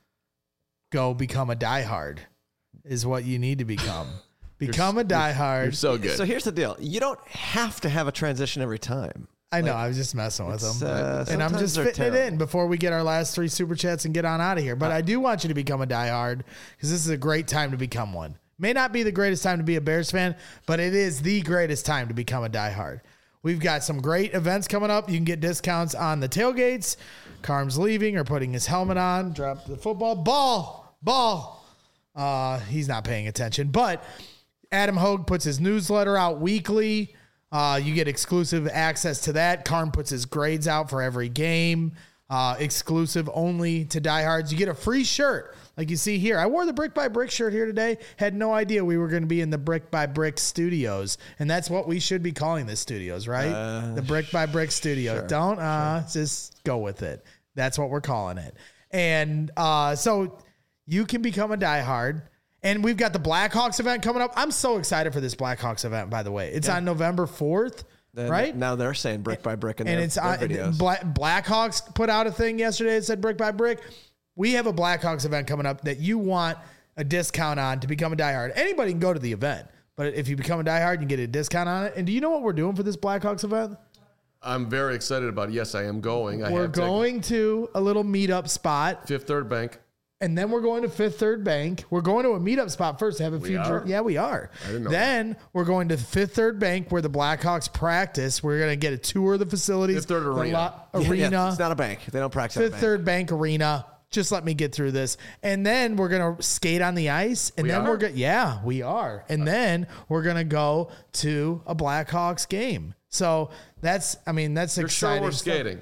go become a diehard is what you need to become. Become a diehard. You're so good. So here's the deal. You don't have to have a transition every time. I know. I was just messing with It's, them. uh, and I'm sometimes just they're fitting it terrible. in before we get our last three super chats and get on out of here. But I do want you to become a diehard because this is a great time to become one. May not be the greatest time to be a Bears fan, but it is the greatest time to become a diehard. We've got some great events coming up. You can get discounts on the tailgates. Carm's leaving or putting his helmet on. Drop the football. Ball. Ball. Uh, he's not paying attention. But Adam Hogue puts his newsletter out weekly. Uh, you get exclusive access to that. Carm puts his grades out for every game. Uh, exclusive only to diehards. You get a free shirt like you see here. I wore the Brick by Brick shirt here today. Had no idea we were going to be in the Brick by Brick studios. And that's what we should be calling this studios, right? Uh, the Brick by Brick studio. sure, Don't uh, sure. just go with it. That's what we're calling it. And uh, so you can become a diehard. And we've got the Blackhawks event coming up. I'm so excited for this Blackhawks event, by the way. It's Yeah. on November fourth, Then right? Now they're saying brick by brick in and their, it's their on, videos. Black, Blackhawks put out a thing yesterday that said brick by brick. We have a Blackhawks event coming up that you want a discount on to become a diehard. Anybody can go to the event, but if you become a diehard, you can get a discount on it. And do you know what we're doing for this Blackhawks event? I'm very excited about it. Yes, I am going. I we're have taken going to a little meetup spot. Fifth Third Bank. And then we're going to Fifth Third Bank. We're going to a meetup spot first to have a few. are? Yeah, we are. I didn't know then we're going to Fifth Third Bank where the Blackhawks practice. We're going to get a tour of the facilities. Fifth Third the Arena. lo- Yeah, arena. yeah, it's not a bank. They don't practice at a Fifth bank. Third Bank Arena. Just let me get through this. And then we're going to skate on the ice. And We then are? we're going to, yeah, we are. And then we're going to go to a Blackhawks game. So that's, I mean, that's You're sure exciting. we're stuff. skating?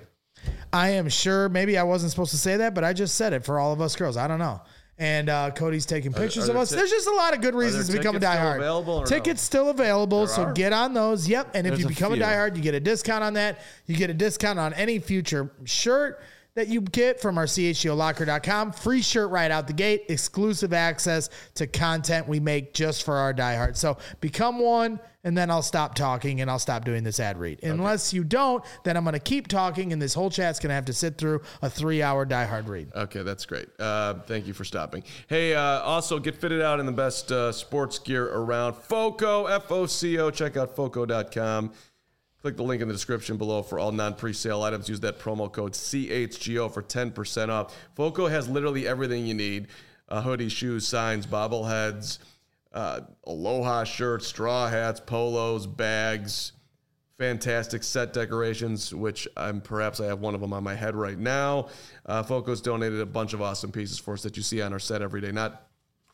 I am sure. Maybe I wasn't supposed to say that, but I just said it for all of us girls. I don't know. And uh, Cody's taking pictures are of there us. ti- There's just a lot of good reasons to there become a tickets still diehard. available or no? Tickets still available, There so are? get on those. Yep. And if There's you a become a few. diehard, you get a discount on that. You get a discount on any future shirt that you get from our C H G O locker dot com. Free shirt right out the gate. Exclusive access to content we make just for our diehards. So become one, and then I'll stop talking and I'll stop doing this ad read. Unless you don't, then I'm going to keep talking, and this whole chat's going to have to sit through a three-hour diehard read. Okay, that's great. Uh, thank you for stopping. Hey, uh, also get fitted out in the best uh, sports gear around. Foco, F O C O. Check out foco dot com. Click the link in the description below for all non-presale items. Use that promo code C H G O for ten percent off. Foco has literally everything you need. Uh, hoodies, shoes, signs, bobbleheads, uh, Aloha shirts, straw hats, polos, bags, fantastic set decorations, which I'm perhaps I have one of them on my head right now. Uh, Foco's donated a bunch of awesome pieces for us that you see on our set every day. Not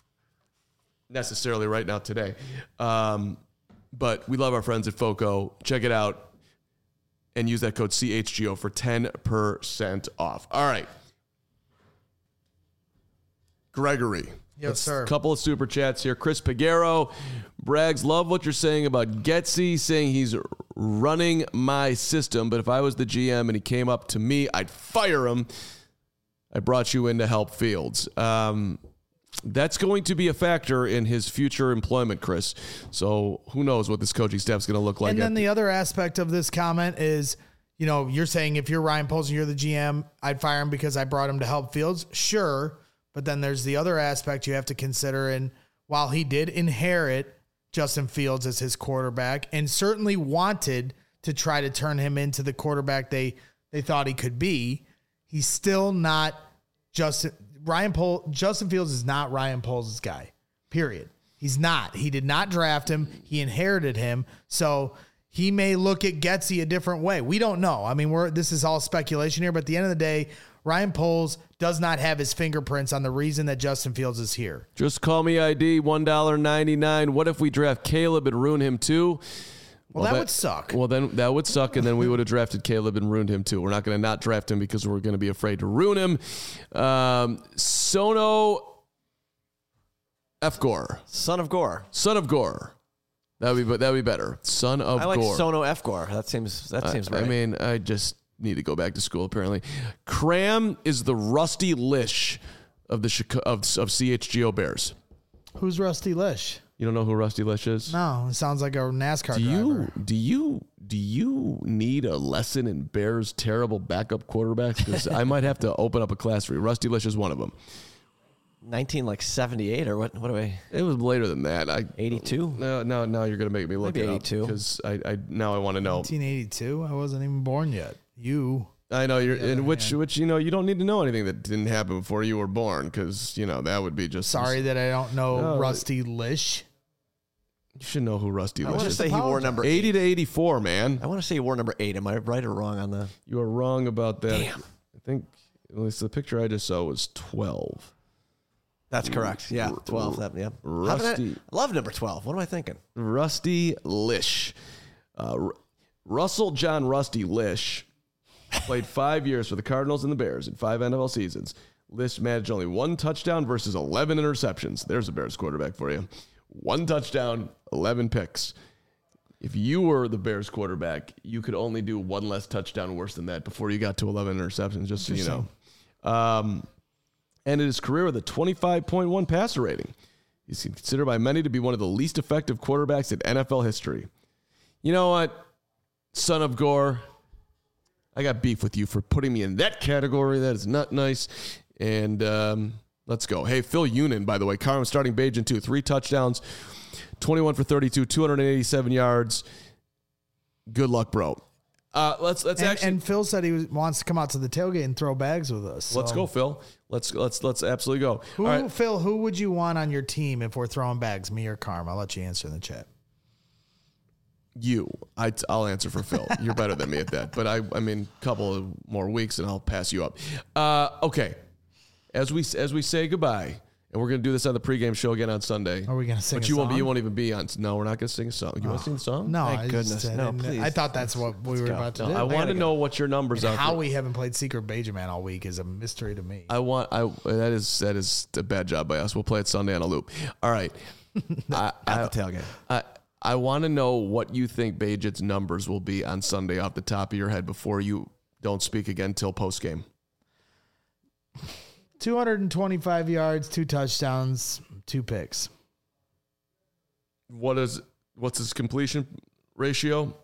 necessarily right now today. Um, but we love our friends at Foco. Check it out and use that code C H G O for ten percent off. All right. Gregory. Yes, Let's- sir. Couple of super chats here. Chris Pagero. Braggs, love what you're saying about Getsy, saying he's running my system, but if I was the G M and he came up to me, I'd fire him. I brought you in to help Fields. Um, that's going to be a factor in his future employment, Chris. So who knows what this coaching staff is going to look like. And then at the other aspect of this comment is, you know, you're saying if you're Ryan Poles and you're the G M, I'd fire him because I brought him to help Fields. Sure. But then there's the other aspect you have to consider. And while he did inherit Justin Fields as his quarterback and certainly wanted to try to turn him into the quarterback they, they thought he could be, he's still not Justin Ryan Poles. Justin Fields is not Ryan Poles' guy, period. He's not. He did not draft him. He inherited him. So he may look at Getsy a different way. We don't know. I mean, we're this is all speculation here, but at the end of the day, Ryan Poles does not have his fingerprints on the reason that Justin Fields is here. Just call me I D, one dollar and ninety-nine cents. What if we draft Caleb and ruin him too? Well, that, would suck. Well, then that would suck, and then we would have drafted Caleb and ruined him too. We're not going to not draft him because we're going to be afraid to ruin him. Um, Sono F. Gore. Son of Gore. Son of Gore. That would be that would be better. Son of I like Gore. Sono F. Gore. That seems that seems I, right. I mean, I just need to go back to school. Apparently, Cram is the Rusty Lish of the Chica- of of C H G O Bears. Who's Rusty Lish? You don't know who Rusty Lish is? No, it sounds like a NASCAR Do you driver. do you do you need a lesson in Bears' terrible backup quarterbacks? Because I might have to open up a class for you. Rusty Lish is one of them. nineteen like seventy-eight or what? What do we? It was later than that. I eighty-two. No, no, now you're gonna make me look Maybe it eighty-two. because I, I now I want to know. nineteen eighty-two. I wasn't even born yet. You. I know you're in other which hand. which you know you don't need to know anything that didn't happen before you were born because you know that would be just Sorry that I don't know No, Rusty Lish. You should know who Rusty I Lish want to is. say he wore number eighty eight. to eighty-four, man. I want to say he wore number eight. Am I right or wrong on the? You are wrong about that. Damn. I think at least the picture I just saw was twelve. That's correct. Yeah, twelve. That, yeah. How did I- Rusty- I love number twelve. What am I thinking? Rusty Lish. Uh, R- Russell John Rusty Lish played five years for the Cardinals and the Bears in five N F L seasons. Lish managed only one touchdown versus eleven interceptions. There's a Bears quarterback for you. One touchdown, eleven picks. If you were the Bears quarterback, you could only do one less touchdown worse than that before you got to eleven interceptions, just so you know. Um, ended his career with a twenty-five point one passer rating. He's considered by many to be one of the least effective quarterbacks in N F L history. You know what, son of Gore? I got beef with you for putting me in that category. That is not nice. And um, let's go. Hey, Phil Unin, by the way, Carmen starting Bajan two, three touchdowns, twenty-one for thirty-two, two hundred eighty-seven yards. Good luck, bro. Uh, let's let's And, actually and Phil said he was, wants to come out to the tailgate and throw bags with us. let's so. go, Phil. Let's let's let's absolutely go. Who, All right. Phil, who would you want on your team if we're throwing bags, me or Carm? I'll let you answer in the chat. You, I, I'll answer for Phil. You're better than me at that. But I, I mean, a couple of more weeks and I'll pass you up. Uh, okay, as we as we say goodbye, and we're gonna do this on the pregame show again on Sunday. Are we gonna sing But a you won't be. song? You won't even be on. No, we're not gonna sing a song. You want to sing the song? No, Thank I goodness. Just, I, No, didn't- please. I thought that's what we were go. about to No, do. I want to go. know what your numbers are. How for- we haven't played Secret Bajan Man all week is a mystery to me. I want. I that is that is a bad job by us. We'll play it Sunday on a loop. All right. I, I, At the tailgate. I I want to know what you think Bajan's numbers will be on Sunday off the top of your head before you don't speak again till post game. two hundred twenty-five yards, two touchdowns, two picks. What is what's his completion ratio?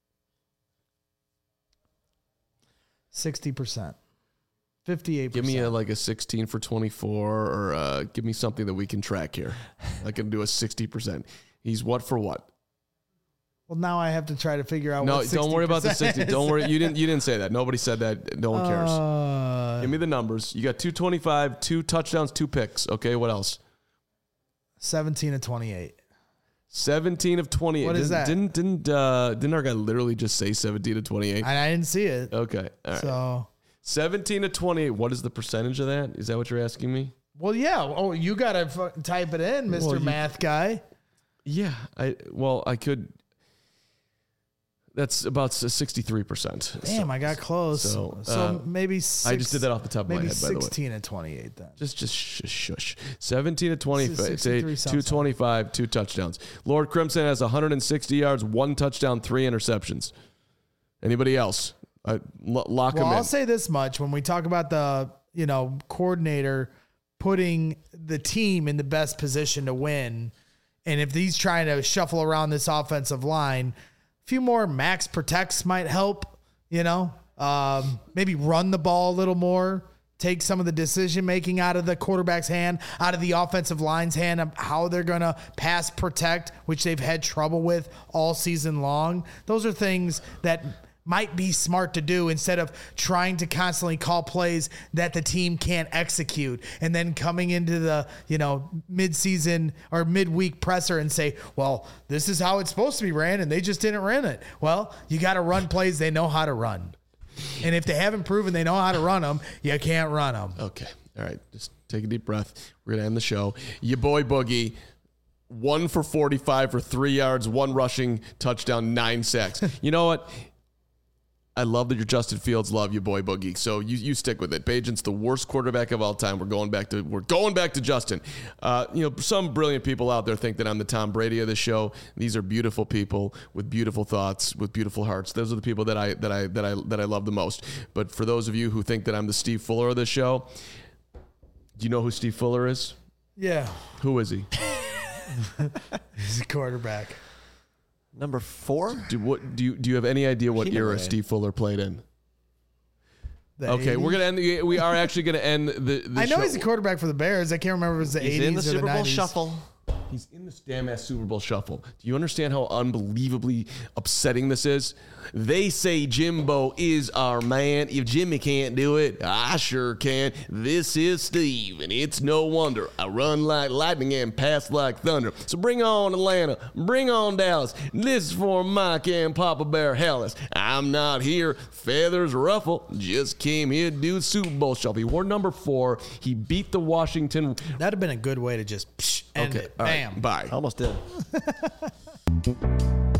sixty percent. fifty-eight Give percent. me a, like a sixteen for twenty-four, or uh, give me something that we can track here. I can do a sixty percent. He's what for what? Well, now I have to try to figure out No, what don't worry about the sixty. is. Don't worry. You didn't. You didn't say that. Nobody said that. No one cares. Uh, Give me the numbers. You got two twenty-five, two touchdowns, two picks. Okay, what else? seventeen of twenty-eight. seventeen of twenty-eight. What is didn't, that? Didn't didn't uh, didn't our guy literally just say seventeen to twenty-eight? And I didn't see it. Okay, all right. So, seventeen to twenty-eight. What is the percentage of that? Is that what you're asking me? well, yeah. Oh, you got to f- type it in, Mister Well, you- Math Guy. Yeah, I well I could. That's about sixty-three percent. Damn, I got close. so, So, uh, maybe six, I just did that off the top of my maybe head, by the way. sixteen and twenty-eight then. Just, just shush, shush. seventeen to twenty, sixty-three sounds two twenty-five, two touchdowns. Lord Crimson has one hundred sixty yards, one touchdown, three interceptions. Anybody else? I, lo- lock Well, him I'll in. say this much: when we talk about the, you know, coordinator putting the team in the best position to win, and if he's trying to shuffle around this offensive line, a few more max protects might help. You know, um, maybe run the ball a little more. Take some of the decision making out of the quarterback's hand, out of the offensive line's hand, of how they're going to pass protect, which they've had trouble with all season long. Those are things that might be smart to do instead of trying to constantly call plays that the team can't execute and then coming into the, you know, mid-season or midweek presser and say, well, this is how it's supposed to be ran and they just didn't run it. Well, you got to run plays they know how to run. And if they haven't proven they know how to run them, you can't run them. Okay. All right. Just take a deep breath. We're going to end the show. Your boy Boogie, one for forty-five for three yards, one rushing touchdown, nine sacks. You know what? I love that you're Justin Fields. Love you, boy Boogie. So you you stick with it. Bajan's the worst quarterback of all time. We're going back to we're going back to Justin. Uh, you know, some brilliant people out there think that I'm the Tom Brady of the show. These are beautiful people with beautiful thoughts, with beautiful hearts. Those are the people that I that I that I that I love the most. But for those of you who think that I'm the Steve Fuller of the show, do you know who Steve Fuller is? Yeah. Who is he? He's a quarterback. Number four? Do what? Do you do you have any idea what He era never had- Steve Fuller played in? The Okay, we're eighties? gonna end. The, we are actually gonna end the. the I know show. he's a quarterback for the Bears. I can't remember if it was the He's eighties in the or Super the Bowl nineties. shuffle. He's in this damn ass Super Bowl shuffle. Do you understand how unbelievably upsetting this is? They say Jimbo is our man. If Jimmy can't do it, I sure can. This is Steve, and it's no wonder I run like lightning and pass like thunder. So bring on Atlanta, bring on Dallas. This is for Mike and Papa Bear Hellas. I'm not here, feathers ruffle. Just came here to do the Super Bowl shuffle. He wore number four. He beat the Washington. That'd have been a good way to just psh, end Okay, it. all right, Bam. bye. Almost did.